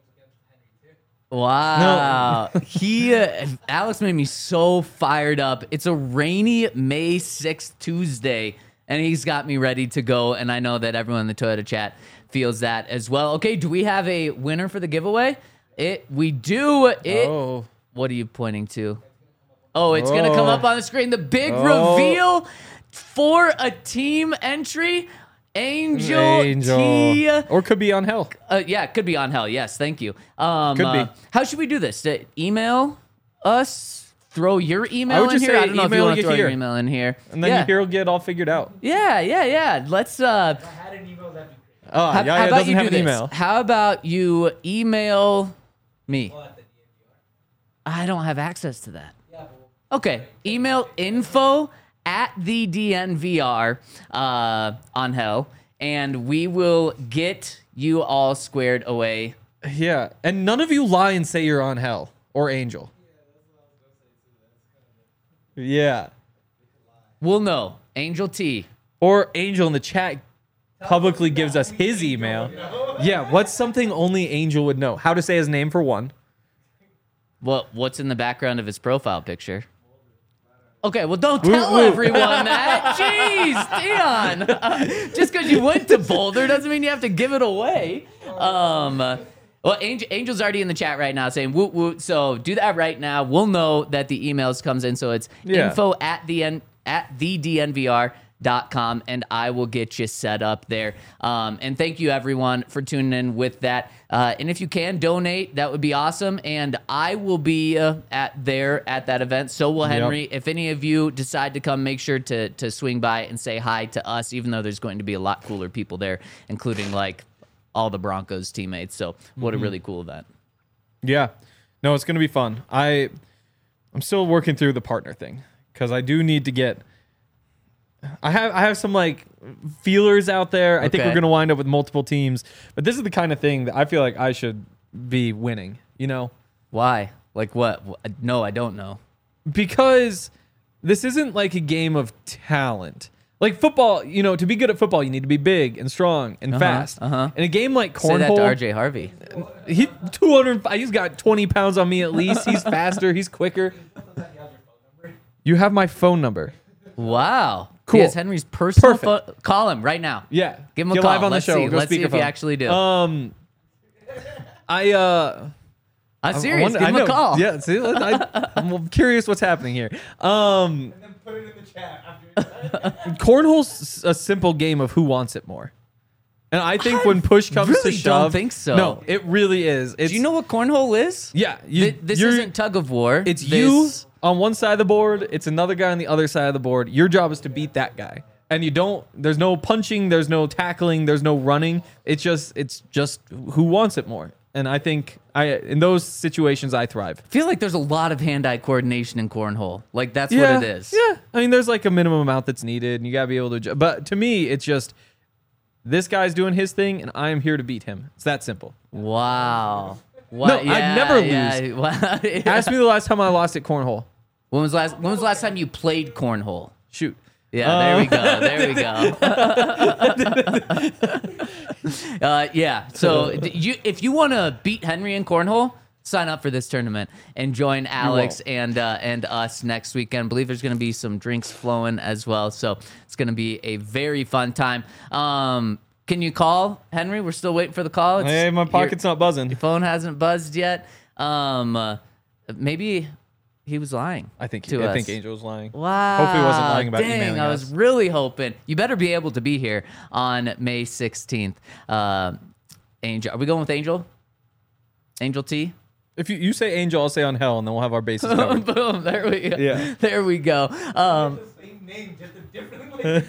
Wow. No. Alex made me so fired up. It's a rainy May 6th Tuesday, and he's got me ready to go, and I know that everyone in the Toyota chat feels that as well. Okay, do we have a winner for the giveaway? We do. What are you pointing to? Oh, it's going to come up on the screen. The big reveal for a team entry. Angel T. Or could be on Hell. Yeah, it could be on Hell. Yes, thank you. Could be. How should we do this? Email us? Throw your email in here? I don't know if you want to throw your email in here. And then your will get all figured out. Yeah. Let's... If I had an email, that'd be great. How about you do this? Email. How about you email me? I don't have access to that. Okay, email info at the DNVR on Hell, and we will get you all squared away. Yeah, and none of you lie and say you're on Hell or Angel. Yeah. We'll know. Angel T. Or Angel in the chat publicly gives us his email. Yeah, what's something only Angel would know? How to say his name for one. What's in the background of his profile picture? Okay, well, don't tell everyone that. Jeez, Dion. Just because you went to Boulder doesn't mean you have to give it away. Well, Angel's already in the chat right now saying woot woot. So do that right now. We'll know that the emails comes in. So it's info at thednvr.com, and I will get you set up there. And thank you, everyone, for tuning in with that. And if you can donate, that would be awesome. And I will be at that event. So will Henry. If any of you decide to come, make sure to swing by and say hi to us, even though there's going to be a lot cooler people there, including like all the Broncos teammates. So what a really cool event. Yeah. No, it's going to be fun. I'm still working through the partner thing because I do need to get... I have some like feelers out there. I think we're going to wind up with multiple teams, but this is the kind of thing that I feel like I should be winning, you know? Why? Like what? No, I don't know. Because this isn't like a game of talent. Like football, to be good at football, you need to be big and strong and fast. In a game like Say that cornhole, to RJ Harvey. he's got 20 pounds on me at least. He's faster. He's quicker. You have my phone number. Wow. Cool. He has Henry's personal Perfect. phone. Call him right now. Yeah. Give him a Get call. live on Let's the show. see. Go Let's see if you speakerphone. actually do. I'm serious. Give him a call. Yeah, see, I'm curious what's happening here. And then put it in the chat after. Cornhole's a simple game of who wants it more. And I think when push comes really to shove, don't think so. No, it really is. Do you know what cornhole is? Yeah, This isn't tug of war. It's you on one side of the board. It's another guy on the other side of the board. Your job is to beat that guy. And there's no punching, there's no tackling, there's no running. It's just who wants it more. And I think in those situations I thrive. I feel like there's a lot of hand-eye coordination in cornhole. Like that's what it is. Yeah. I mean, there's like a minimum amount that's needed, and you gotta be able to. But to me, it's just this guy's doing his thing, and I am here to beat him. It's that simple. Wow. No, I'd never lose. Wow. Ask me the last time I lost at cornhole. When was the last time you played cornhole? Shoot. Yeah, there we go. There we go. Yeah. So if you want to beat Henry in cornhole, sign up for this tournament and join Alex and us next weekend. I believe there's going to be some drinks flowing as well. So it's going to be a very fun time. Can you call Henry? We're still waiting for the call. Hey, my pocket's not buzzing. Your phone hasn't buzzed yet. Maybe he was lying. I think Angel was lying. Wow. Hopefully he wasn't lying about Dang, emailing I us. was really hoping. You better be able to be here on May 16th. Angel. Are we going with Angel? Angel T? If you say Angel, I'll say on hell, and then we'll have our bases covered. Boom. There we go. Yeah. There we go. The same name, just a different way.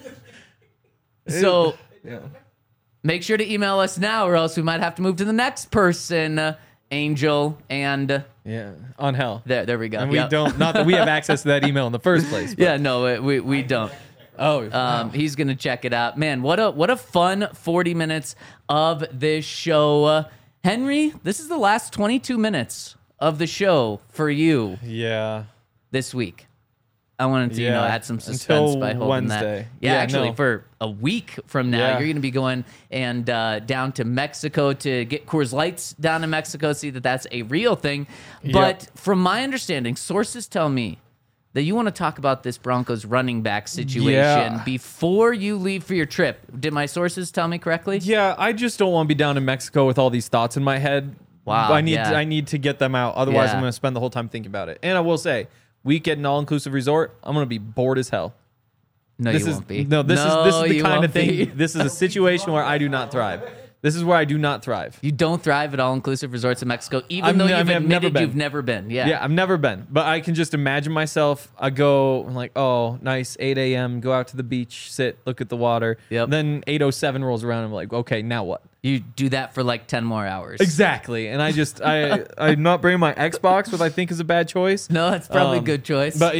So Yeah. make sure to email us now, or else we might have to move to the next person, Angel. And Yeah. On hell. there we go. And we Yep. don't, not that we have access to that email in the first place. But. Yeah, no, we don't. Oh, wow. He's gonna check it out. Man, what a fun 40 minutes of this show. Henry, this is the last 22 minutes of the show for you Yeah. this week. I wanted to, Yeah. add some suspense Until by holding Wednesday. that. Yeah, Yeah, actually, no. for a week from now, Yeah. you're going to be going and down to Mexico to get Coors Lights down in Mexico, see that that's a real thing. But from my understanding, sources tell me that you want to talk about this Broncos running back situation Yeah. before you leave for your trip. Did my sources tell me correctly? Yeah, I just don't want to be down in Mexico with all these thoughts in my head. Wow, I need yeah. I need to get them out. Otherwise, Yeah. I'm going to spend the whole time thinking about it. And I will say, week at an all-inclusive resort, I'm going to be bored as hell. No, This you is won't be. no. This is the you kind won't of thing. be. This is a situation where I do not thrive. This is where I do not thrive. You don't thrive at all-inclusive resorts in Mexico, even I'm- though you've I've never admitted been. you've never been. Yeah. Yeah, I've never been, but I can just imagine myself. I go I'm like, oh, nice, 8 a.m. Go out to the beach, sit, look at the water. Yep. Then 8:07 rolls around. I'm like, okay, now what? You do that for like 10 more hours. Exactly. And I'm not bringing my Xbox, which I think is a bad choice. No, that's probably a good choice. But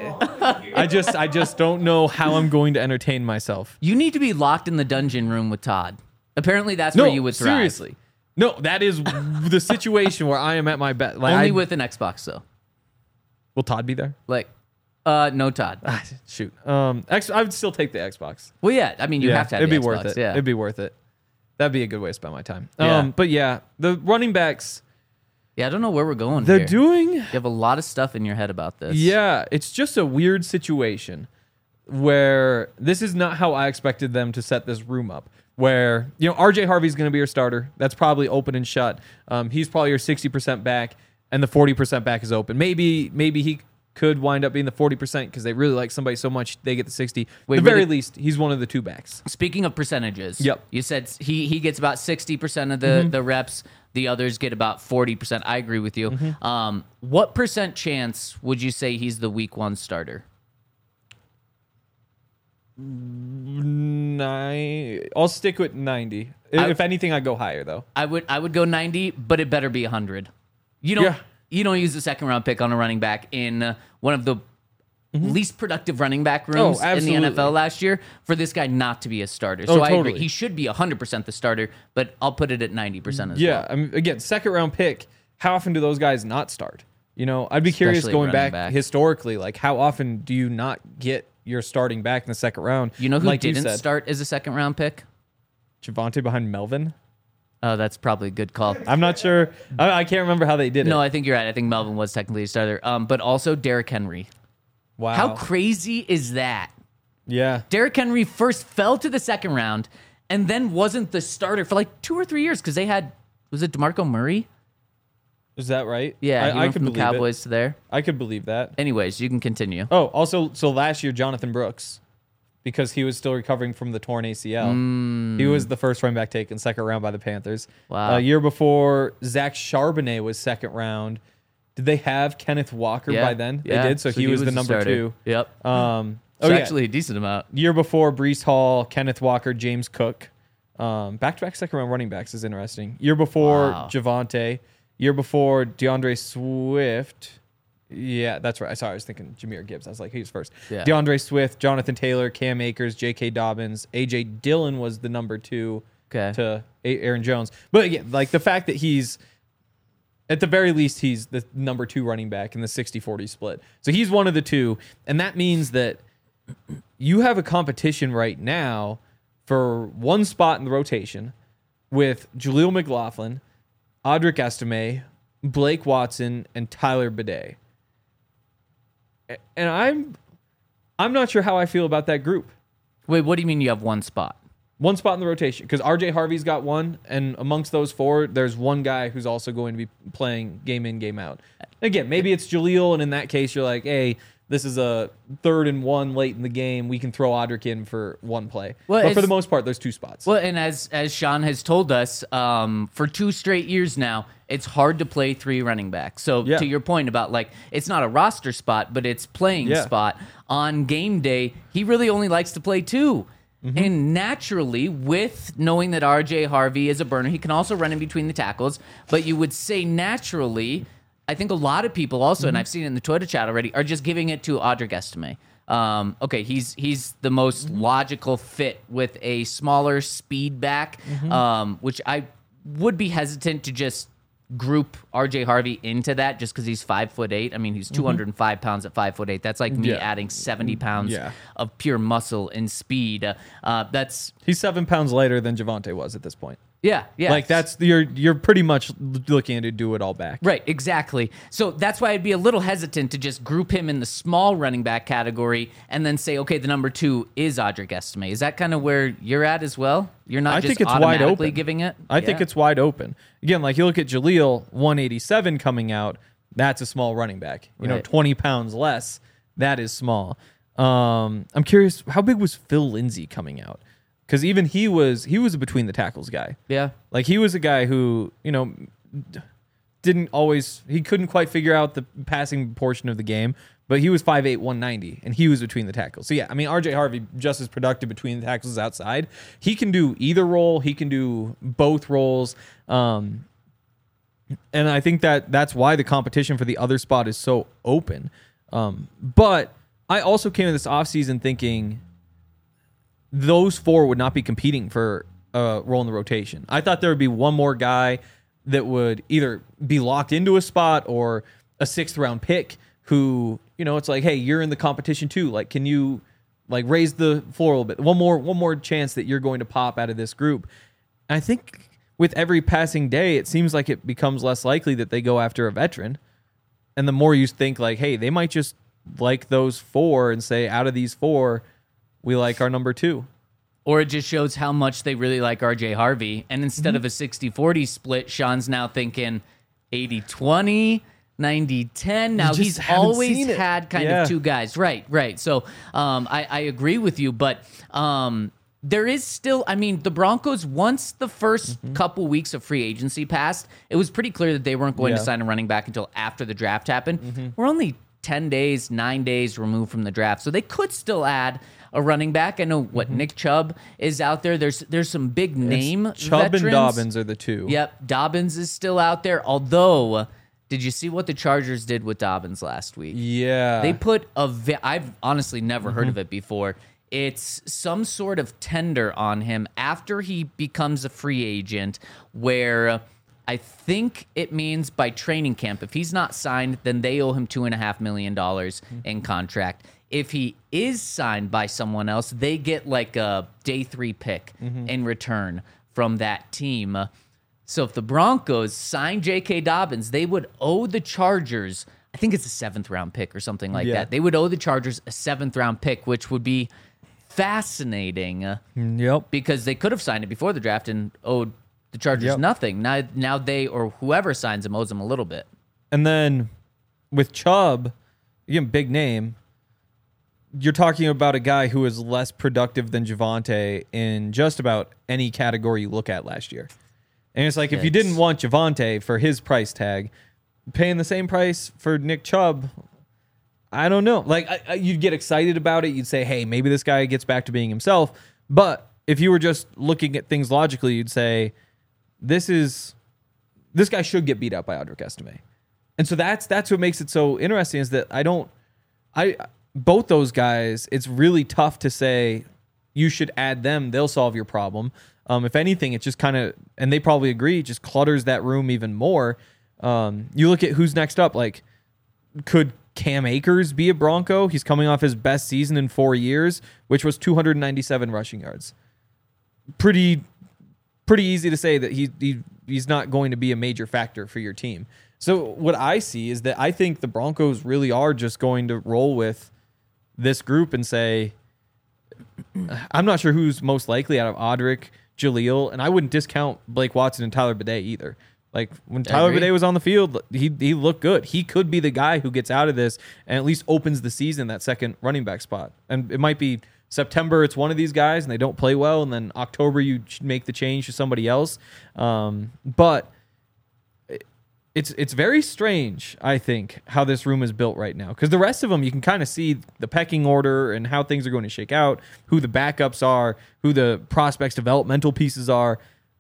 I just don't know how I'm going to entertain myself. you need to be locked in the dungeon room with Todd. Apparently, that's where you would thrive. seriously. No, that is the situation where I am at my best. Like, Only with an Xbox, though. will Todd be there? Like, no Todd. Shoot. I would still take the Xbox. Well, yeah. I mean, you have to have it'd the be Xbox, worth it. Yeah. It'd be worth it. That'd be a good way to spend my time. Yeah. But yeah, the running backs, Yeah, I don't know where we're going they're here. doing. You have a lot of stuff in your head about this. Yeah, it's just a weird situation where this is not how I expected them to set this room up. Where, RJ Harvey's going to be your starter. That's probably open and shut. He's probably your 60% back, and the 40% back is open. Maybe he could wind up being the 40% because they really like somebody so much they get the 60. Wait, At the very really? least, he's one of the two backs. Speaking of percentages, Yep. you said he gets about 60% of the reps. The others get about 40%. I agree with you. What percent chance would you say he's the week 1 starter? I'll stick with 90. If anything, I go higher though. I would go 90, but it better be 100. You don't use the second round pick on a running back in one of the least productive running back rooms in the absolutely. NFL last year for this guy not to be a starter. Oh, So I agree. totally. He should be 100% the starter, but I'll put it at 90% as well. Yeah, I mean, again, second round pick. How often do those guys not start? I'd be curious Especially going running back back. historically. Like, how often do you not get you're starting back in the second round. You know who like didn't said, start as a second round pick? Javonte behind Melvin. Oh, that's probably a good call. I'm not sure. I can't remember how they did it. No, I think you're right. I think Melvin was technically a starter. But also Derrick Henry. Wow. How crazy is that? Yeah. Derrick Henry first fell to the second round and then wasn't the starter for like 2 or 3 years because they had, was it DeMarco Murray? Is that right? Yeah, he I went could from the believe Cowboys to there. I could believe that. Anyways, you can continue. Oh, also, so last year, Jonathan Brooks, because he was still recovering from the torn ACL. He was the first running back taken second round by the Panthers. Wow. A year before, Zach Charbonnet was second round. Did they have Kenneth Walker by then? Yeah. They did, so he was the number starter. 2. Yep. Oh, It's yeah. actually a decent amount. Year before, Brees Hall, Kenneth Walker, James Cook. Back-to-back second-round running backs is interesting. Year before, Wow. Javonte. Year before, DeAndre Swift. Yeah, that's right. Sorry, I was thinking Jahmyr Gibbs. I was like, he's first. Yeah. DeAndre Swift, Jonathan Taylor, Cam Akers, J.K. Dobbins. A.J. Dillon was the number 2 Okay. to Aaron Jones. But again, like the fact that he's, at the very least, he's the number 2 running back in the 60-40 split. So he's one of the 2. And that means that you have a competition right now for one spot in the rotation with Jaleel McLaughlin, Audric Estime, Blake Watson, and Tyler Bidet. And I'm not sure how I feel about that group. Wait, what do you mean you have one spot? One spot in the rotation, because RJ Harvey's got one, and amongst those 4, there's one guy who's also going to be playing game in, game out. Again, maybe it's Jaleel, and in that case, you're like, hey, this is a 3rd and 1 late in the game. We can throw Audric in for one play. Well, but for it's- the most part, there's 2 spots. Well, and as Sean has told us, for 2 straight years now, it's hard to play 3 running backs. So Yeah. to your point about like it's not a roster spot, but it's playing Yeah. spot on game day. He really only likes to play 2. Mm-hmm. And naturally, with knowing that RJ Harvey is a burner, he can also run in between the tackles. But you would say naturally, I think a lot of people also, Mm-hmm. and I've seen it in the Twitter chat already, are just giving it to Audric Estime. Okay, he's the most Mm-hmm. logical fit with a smaller speed back, which I would be hesitant to just group RJ Harvey into that just because he's 5'8". I mean, he's 205 pounds at 5'8". That's like me Yeah. adding 70 pounds Yeah. of pure muscle and speed. That's He's 7 pounds lighter than Javonte was at this point. yeah. Like that's you're pretty much looking to do it all back. Right, exactly. So that's why I'd be a little hesitant to just group him in the small running back category and then say, okay, the number 2 is Audric Estime. Is that kind of where you're at as well? You're not I just think it's wide automatically open. giving it? I think it's wide open. Again, like you look at Jaleel, 187 coming out. That's a small running back. You know, Right. 20 pounds less. That is small. I'm curious, how big was Phil Lindsay coming out? Because even he was a between the tackles guy. Yeah. Like he was a guy who, you know, he couldn't quite figure out the passing portion of the game, but he was 5'8", 190, and he was between the tackles. So yeah, I mean, RJ Harvey just as productive between the tackles as outside. He can do either role. He can do both roles. And I think that's why the competition for the other spot is so open. But I also came in this offseason thinking those 4 would not be competing for a role in the rotation. I thought there would be one more guy that would either be locked into a spot or a 6th round pick who, you know, it's like, hey, you're in the competition too. Like, can you like raise the floor a little bit? One more chance that you're going to pop out of this group. And I think with every passing day, it seems like it becomes less likely that they go after a veteran. And the more you think like, hey, they might just like those 4 and say, out of these 4, we like our number 2. Or it just shows how much they really like RJ Harvey. And instead of a 60-40 split, Sean's now thinking 80-20, 90-10. Now, just he's haven't always seen it. had kind Yeah. of 2 guys. Right. So I agree with you. But there is still, I mean, the Broncos, once the first couple weeks of free agency passed, it was pretty clear that they weren't going to Yeah. sign a running back until after the draft happened. We're only 10 days, 9 days removed from the draft. So they could still add a running back. I know what Nick Chubb is out there. There's some big name Chubb veterans. and Dobbins are the 2. Yep, Dobbins is still out there. Although, did you see what the Chargers did with Dobbins last week? Yeah. They put I've honestly never heard of it before. It's some sort of tender on him after he becomes a free agent where I think it means by training camp, if he's not signed, then they owe him $2.5 million in contract. if he is signed by someone else, they get like a day 3 pick in return from that team. So if the Broncos sign J.K. Dobbins, they would owe the Chargers, I think it's a 7th round pick or something like that. They would owe the Chargers a 7th round pick, which would be fascinating. Yep. Because they could have signed it before the draft and owed the Chargers nothing. Now they, or whoever signs him, owes them a little bit. And then with Chubb, again, big name, you're talking about a guy who is less productive than Javonte in just about any category you look at last year. And it's like, if you didn't want Javonte for his price tag, paying the same price for Nick Chubb, I don't know. Like, you'd get excited about it. You'd say, hey, maybe this guy gets back to being himself. But if you were just looking at things logically, you'd say, this guy should get beat up by Audric Estime. And so that's what makes it so interesting, is that both those guys, it's really tough to say you should add them. They'll solve your problem. If anything, it just kind of, and they probably agree, just clutters that room even more. You look at who's next up. Like, could Cam Akers be a Bronco? He's coming off his best season in 4 years, which was 297 rushing yards. Pretty easy to say that he's not going to be a major factor for your team. So what I see is that I think the Broncos really are just going to roll with this group and say, I'm not sure who's most likely out of Audric, Jaleel, and I wouldn't discount Blake Watson and Tyler Bidet either. Like, when Tyler Bidet was on the field, he looked good. He could be the guy who gets out of this and at least opens the season, that second running back spot. And it might be September, it's one of these guys, and they don't play well, and then October you make the change to somebody else. But it's very strange, I think, how this room is built right now. Because the rest of them, you can kind of see the pecking order and how things are going to shake out, who the backups are, who the prospects' developmental pieces are.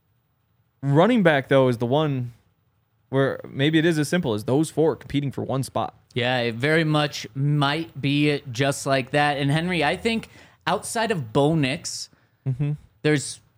Running back, though, is the one where maybe it is as simple as those 4 competing for one spot. Yeah, it very much might be just like that. And Henry, I think outside of Bo Nix, there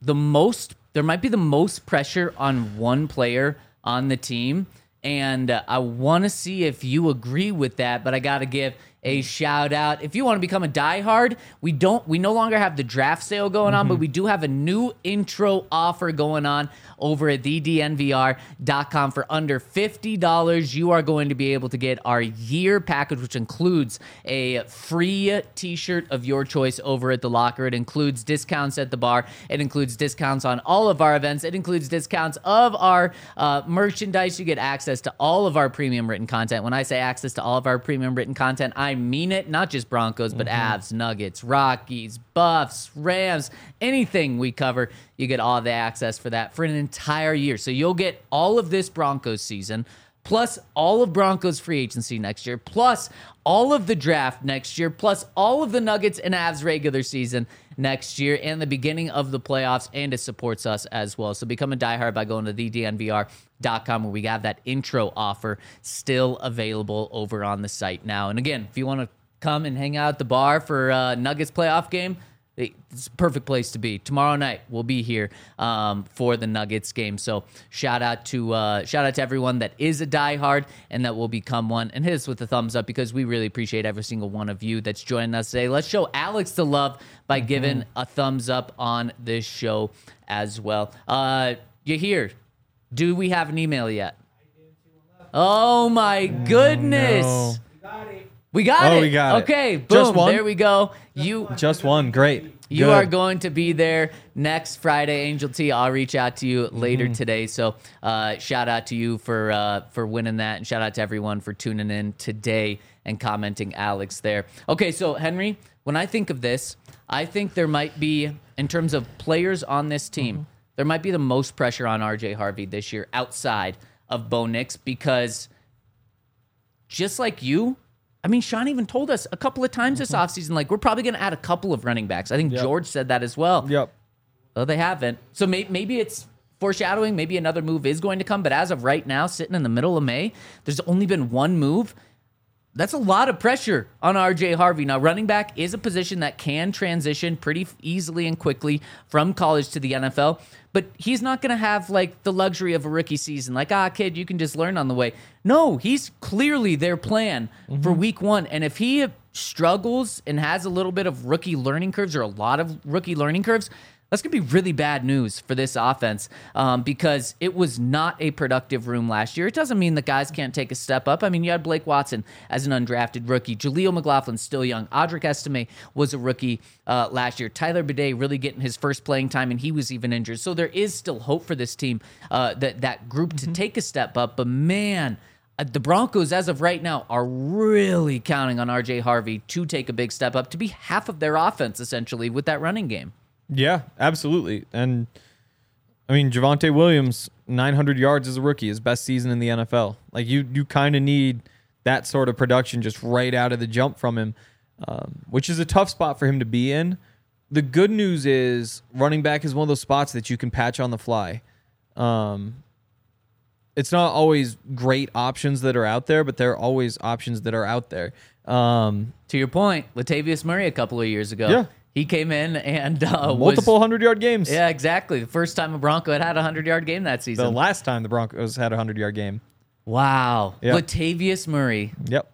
might be the most pressure on one player on the team. And I want to see if you agree with that, but I got to give a shout out. If you want to become a diehard, we no longer have the draft sale going on, but we do have a new intro offer going on over at thednvr.com. For under $50, you are going to be able to get our year package, which includes a free t-shirt of your choice over at the locker. It includes discounts at the bar. It includes discounts on all of our events. It includes discounts of our merchandise. You get access to all of our premium written content. When I say access to all of our premium written content, I mean it. Not just Broncos, but Avs, Nuggets, Rockies, Buffs, Rams, anything we cover, you get all the access for that for an entire year. So you'll get all of this Broncos season, plus all of Broncos free agency next year, plus all of the draft next year, plus all of the Nuggets and Avs regular season next year, and the beginning of the playoffs, and it supports us as well. So become a diehard by going to thednvr.com, where we have that intro offer still available over on the site now. And again, if you want to come and hang out at the bar for a Nuggets playoff game, it's a perfect place to be. Tomorrow night we'll be here for the Nuggets game. So shout out to everyone that is a diehard and that will become one. And hit us with a thumbs up, because we really appreciate every single one of you that's joining us today. Let's show Alex the love by giving a thumbs up on this show as well. You're here. Do we have an email yet? Oh my goodness. No. We got it. We got it. Okay, boom. Just one? There we go. Just one. Great. You Good. are going to be there next Friday, Angel T. I'll reach out to you later today. So shout out to you for winning that, and shout out to everyone for tuning in today and commenting Alex there. Okay, so Henry, when I think of this, I think there might be, in terms of players on this team, there might be the most pressure on RJ Harvey this year outside of Bo Nix, because just like you, I mean, Sean even told us a couple of times this offseason, like, we're probably going to add a couple of running backs. I think George said that as well. Yep. Well, they haven't. So maybe it's foreshadowing. Maybe another move is going to come. But as of right now, sitting in the middle of May, there's only been one move. That's a lot of pressure on RJ Harvey. Now, running back is a position that can transition pretty easily and quickly from college to the NFL, but he's not going to have like the luxury of a rookie season. Like, kid, you can just learn on the way. No, he's clearly their plan for week one. And if he struggles and has a little bit of rookie learning curves or a lot of rookie learning curves, that's going to be really bad news for this offense because it was not a productive room last year. It doesn't mean that guys can't take a step up. I mean, you had Blake Watson as an undrafted rookie. Jaleel McLaughlin's still young. Audric Estime was a rookie last year. Tyler Bidet really getting his first playing time, and he was even injured. So there is still hope for this team, that group to take a step up. But man, the Broncos, as of right now, are really counting on RJ Harvey to take a big step up, to be half of their offense, essentially, with that running game. Yeah, absolutely. And I mean, Javonte Williams, 900 yards as a rookie, his best season in the NFL. Like you kind of need that sort of production just right out of the jump from him, which is a tough spot for him to be in. The good news is running back is one of those spots that you can patch on the fly. It's not always great options that are out there, but there are always options that are out there. To your point, Latavius Murray a couple of years ago. Yeah. He came in and multiple 100-yard games. Yeah, exactly. The first time a Bronco had a 100-yard game that season. The last time the Broncos had a 100-yard game. Wow. Yep. Latavius Murray. Yep.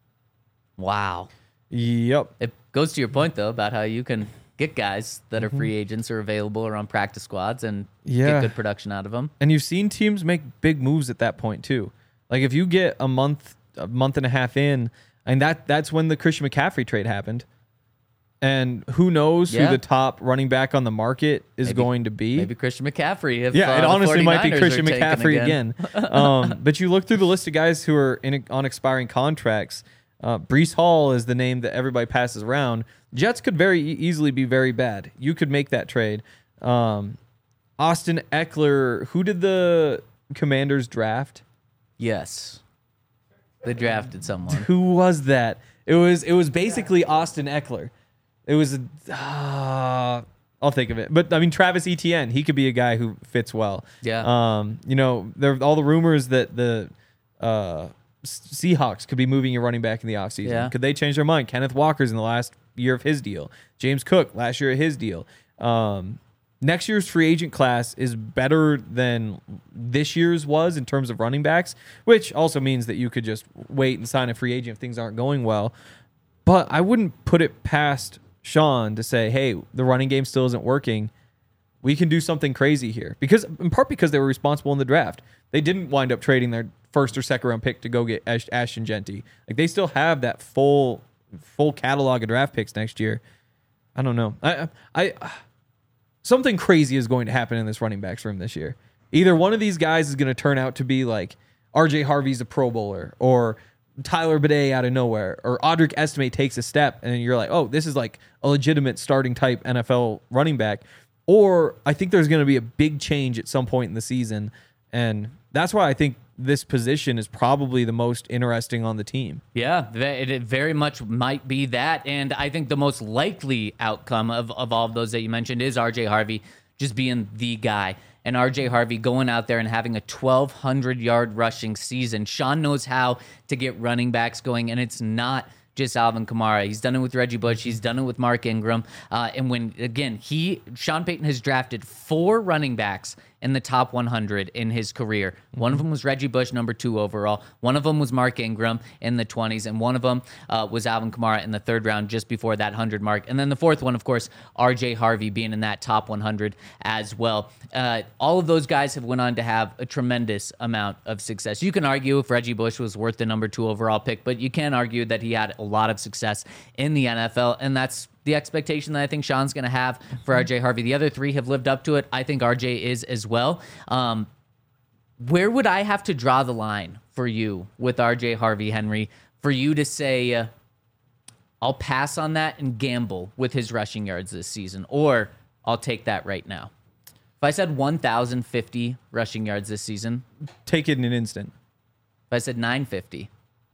Wow. Yep. It goes to your point, though, about how you can get guys that are free agents or available or on practice squads and get good production out of them. And you've seen teams make big moves at that point, too. Like, if you get a month and a half in, and that's when the Christian McCaffrey trade happened. And who knows who the top running back on the market is going to be. Maybe Christian McCaffrey. It honestly might be Christian McCaffrey again. But you look through the list of guys who are on expiring contracts. Breece Hall is the name that everybody passes around. Jets could very easily be very bad. You could make that trade. Austin Eckler. Who did the Commanders draft? Yes. They drafted someone. Who was that? It was basically Austin Eckler. It was I'll think of it. But I mean, Travis Etienne, he could be a guy who fits well. Yeah. There are all the rumors that the Seahawks could be moving a running back in the offseason. Yeah. Could they change their mind? Kenneth Walker's in the last year of his deal. James Cook last year of his deal. Next year's free agent class is better than this year's was in terms of running backs, which also means that you could just wait and sign a free agent if things aren't going well. But I wouldn't put it past Sean to say, hey, the running game still isn't working. We can do something crazy here. In part because they were responsible in the draft. They didn't wind up trading their first or second round pick to go get Ashton Genty. Like, they still have that full catalog of draft picks next year. I don't know. Something crazy is going to happen in this running backs room this year. Either one of these guys is going to turn out to be like RJ Harvey's a Pro Bowler, or Tyler Bidet out of nowhere, or Audric Estime takes a step and you're like, oh, this is like a legitimate starting type NFL running back. Or I think there's going to be a big change at some point in the season. And that's why I think this position is probably the most interesting on the team. Yeah, it very much might be that. And I think the most likely outcome of all of those that you mentioned is RJ Harvey just being the guy. And RJ Harvey going out there and having a 1,200-yard rushing season. Sean knows how to get running backs going, and it's not just Alvin Kamara. He's done it with Reggie Bush. He's done it with Mark Ingram. And when, again, Sean Payton has drafted 4 running backs in the top 100 in his career. One of them was Reggie Bush, number 2 overall. One of them was Mark Ingram in the 20s, and one of them was Alvin Kamara in the 3rd round, just before that 100 mark. And then the 4th one, of course, RJ Harvey being in that top 100 as well. All of those guys have went on to have a tremendous amount of success. You can argue if Reggie Bush was worth the number 2 overall pick, but you can argue that he had a lot of success in the NFL, and that's the expectation that I think Sean's going to have for RJ Harvey. The other 3 have lived up to it. I think RJ is as well. Where would I have to draw the line for you with RJ Harvey, Henry, for you to say, I'll pass on that and gamble with his rushing yards this season, or I'll take that right now? If I said 1,050 rushing yards this season, take it in an instant. If I said 950.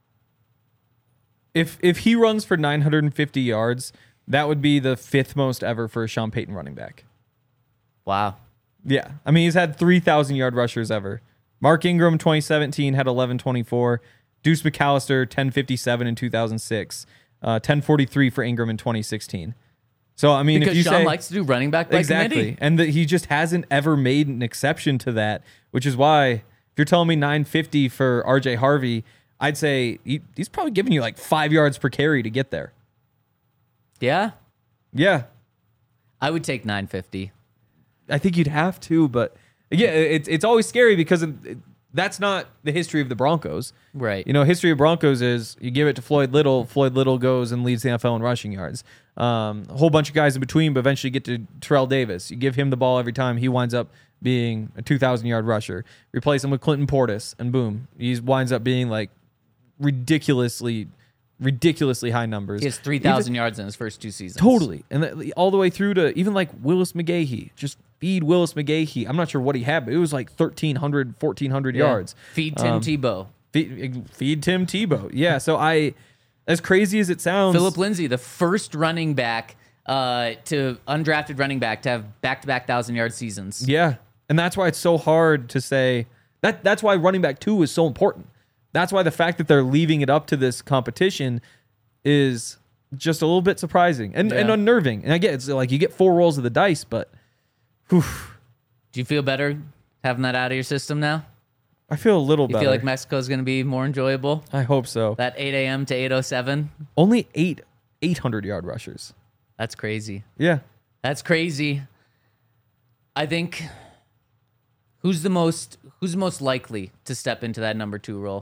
If he runs for 950 yards, that would be the 5th most ever for a Sean Payton running back. Wow. Yeah. I mean, he's had 3,000-yard rushers ever. Mark Ingram, 2017, had 1124. Deuce McAllister, 1057 in 2006. 1043 for Ingram in 2016. So, I mean, because if you Sean say, likes to do running back by committee. And that he just hasn't ever made an exception to that, which is why if you're telling me 950 for RJ Harvey, I'd say he's probably giving you like 5 yards per carry to get there. Yeah, Yeah. I would take 950. I think you'd have to, but yeah, it's always scary because that's not the history of the Broncos. Right. You know, history of Broncos is you give it to Floyd Little. Floyd Little goes and leads the NFL in rushing yards. A whole bunch of guys in between, but eventually get to Terrell Davis. You give him the ball every time, he winds up being a 2,000-yard rusher. Replace him with Clinton Portis, and boom, he winds up being like ridiculously high numbers. He has 3,000 yards in his first 2 seasons. Totally. And all the way through to even like Willis McGahee. Just feed Willis McGahee. I'm not sure what he had, but it was like 1,300, 1,400 yards. Feed Tim Tebow. Feed Tim Tebow. Yeah, so as crazy as it sounds. Philip Lindsay, the first running back to undrafted running back to have back-to-back 1,000-yard seasons. Yeah, and that's why it's so hard to say. That's why running back 2 is so important. That's why the fact that they're leaving it up to this competition is just a little bit surprising and unnerving. And I get it's like you get 4 rolls of the dice, but whew. Do you feel better having that out of your system now? I feel a little You better. feel like Mexico's going to be more enjoyable? I hope so. That 8 a.m. to 8:07? Only 800-yard rushers. That's crazy. Yeah. That's crazy. I think who's the most likely to step into that number 2 role?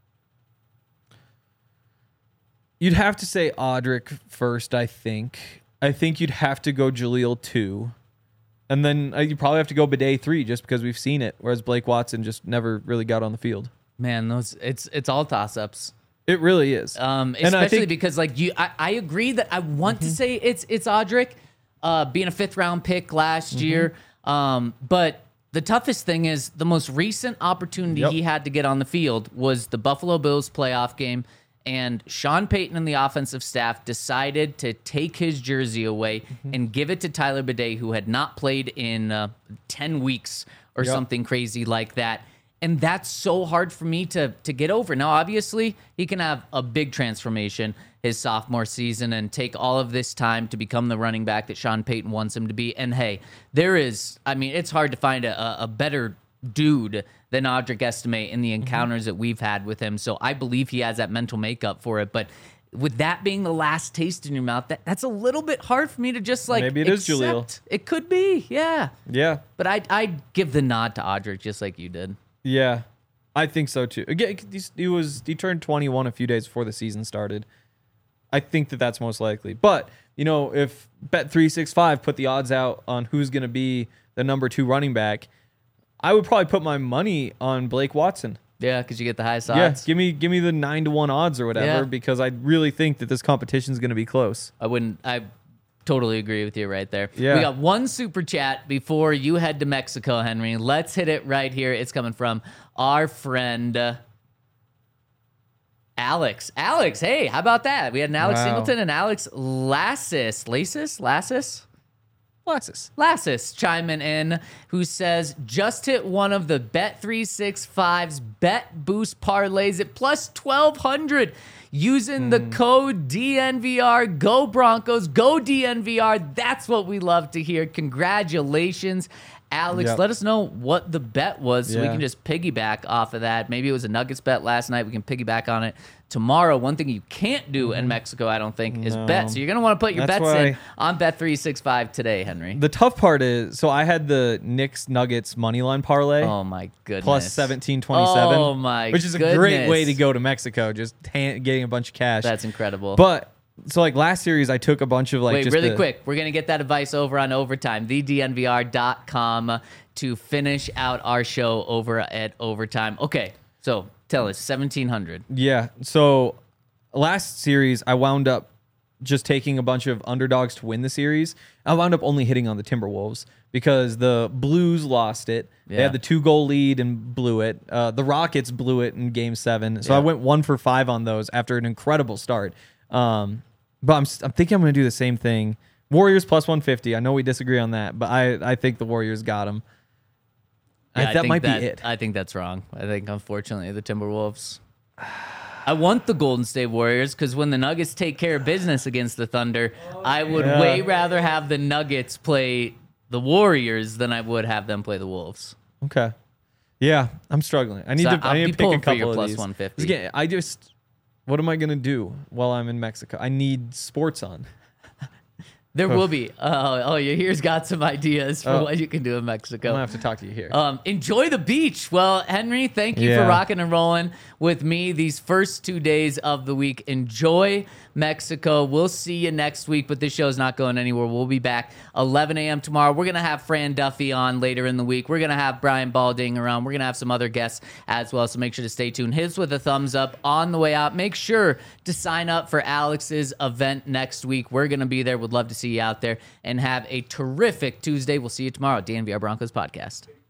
You'd have to say Audric first, I think. I think you'd have to go Jaleel 2. And then you probably have to go Bidet 3 just because we've seen it, whereas Blake Watson just never really got on the field. Man, it's all toss-ups. It really is. Especially because like I agree that I want to say it's Audric, being a 5th-round pick last year. But the toughest thing is the most recent opportunity he had to get on the field was the Buffalo Bills playoff game. And Sean Payton and the offensive staff decided to take his jersey away and give it to Tyler Bidet, who had not played in 10 weeks or something crazy like that. And that's so hard for me to get over. Now, obviously, he can have a big transformation his sophomore season and take all of this time to become the running back that Sean Payton wants him to be. And hey, it's hard to find a better dude than Audric Estime in the encounters that we've had with him. So I believe he has that mental makeup for it. But with that being the last taste in your mouth, that's a little bit hard for me to just like maybe it is Jaleel. It could be, yeah. Yeah. But I'd give the nod to Audric just like you did. Yeah. I think so too. Again, he turned 21 a few days before the season started. I think that's most likely. But, you know, if Bet365 put the odds out on who's going to be the number 2 running back, I would probably put my money on Blake Watson. Yeah, because you get the highest odds. Yeah, give me the 9-1 odds or whatever because I really think that this competition is going to be close. I totally agree with you right there. Yeah. We got one super chat before you head to Mexico, Henry. Let's hit it right here. It's coming from our friend Alex. Alex, hey, how about that? We had an Alex Singleton and Alex Lassis chiming in, who says, just hit one of the Bet365's Bet Boost parlays at plus 1,200 using the code DNVR. Go Broncos, go DNVR. That's what we love to hear. Congratulations, Alex. Yep. Let us know what the bet was so we can just piggyback off of that. Maybe it was a Nuggets bet last night. We can piggyback on it tomorrow. One thing you can't do in Mexico, I don't think, is bet. So you're going to want to put your bets in on Bet365 today, Henry. The tough part is, so I had the Knicks Nuggets money line parlay. Oh, my goodness. Plus 17.27. Oh, my Which is a great way to go to Mexico, just getting a bunch of cash. That's incredible. But, so like last series, I took a bunch of like... Wait, really quick. We're going to get that advice over on Overtime, thednvr.com, to finish out our show over at Overtime. Okay, so tell us, 1,700. Yeah, so last series, I wound up just taking a bunch of underdogs to win the series. I wound up only hitting on the Timberwolves because the Blues lost it. They had the 2-goal lead and blew it. The Rockets blew it in Game 7. So I went 1 for 5 on those after an incredible start. But I'm thinking I'm going to do the same thing. Warriors plus 150. I know we disagree on that, but I think the Warriors got them. Yeah, that might be it. I think that's wrong. I think, unfortunately, the Timberwolves. I want the Golden State Warriors because when the Nuggets take care of business against the Thunder, I would way rather have the Nuggets play the Warriors than I would have them play the Wolves. Okay. Yeah, I'm struggling. I need So to. I'll I need be to pick a pulling for your couple of plus these. 150. Again, what am I gonna do while I'm in Mexico? I need sports on. There will be. Here's got some ideas for Oh. what you can do in I'm Mexico. gonna have to talk to you here. Enjoy the beach. Well, Henry, thank you for Yeah. rocking and rolling with me these first 2 days of the week. Enjoy Mexico. We'll see you next week, but this show's not going anywhere. We'll be back 11 a.m. tomorrow. We're going to have Fran Duffy on later in the week. We're going to have Brian Balding around. We're going to have some other guests as well, so make sure to stay tuned. Hits with a thumbs up on the way out. Make sure to sign up for Alex's event next week. We're going to be there. Would love to see you out there, and have a terrific Tuesday. We'll see you tomorrow. DNVR Broncos podcast.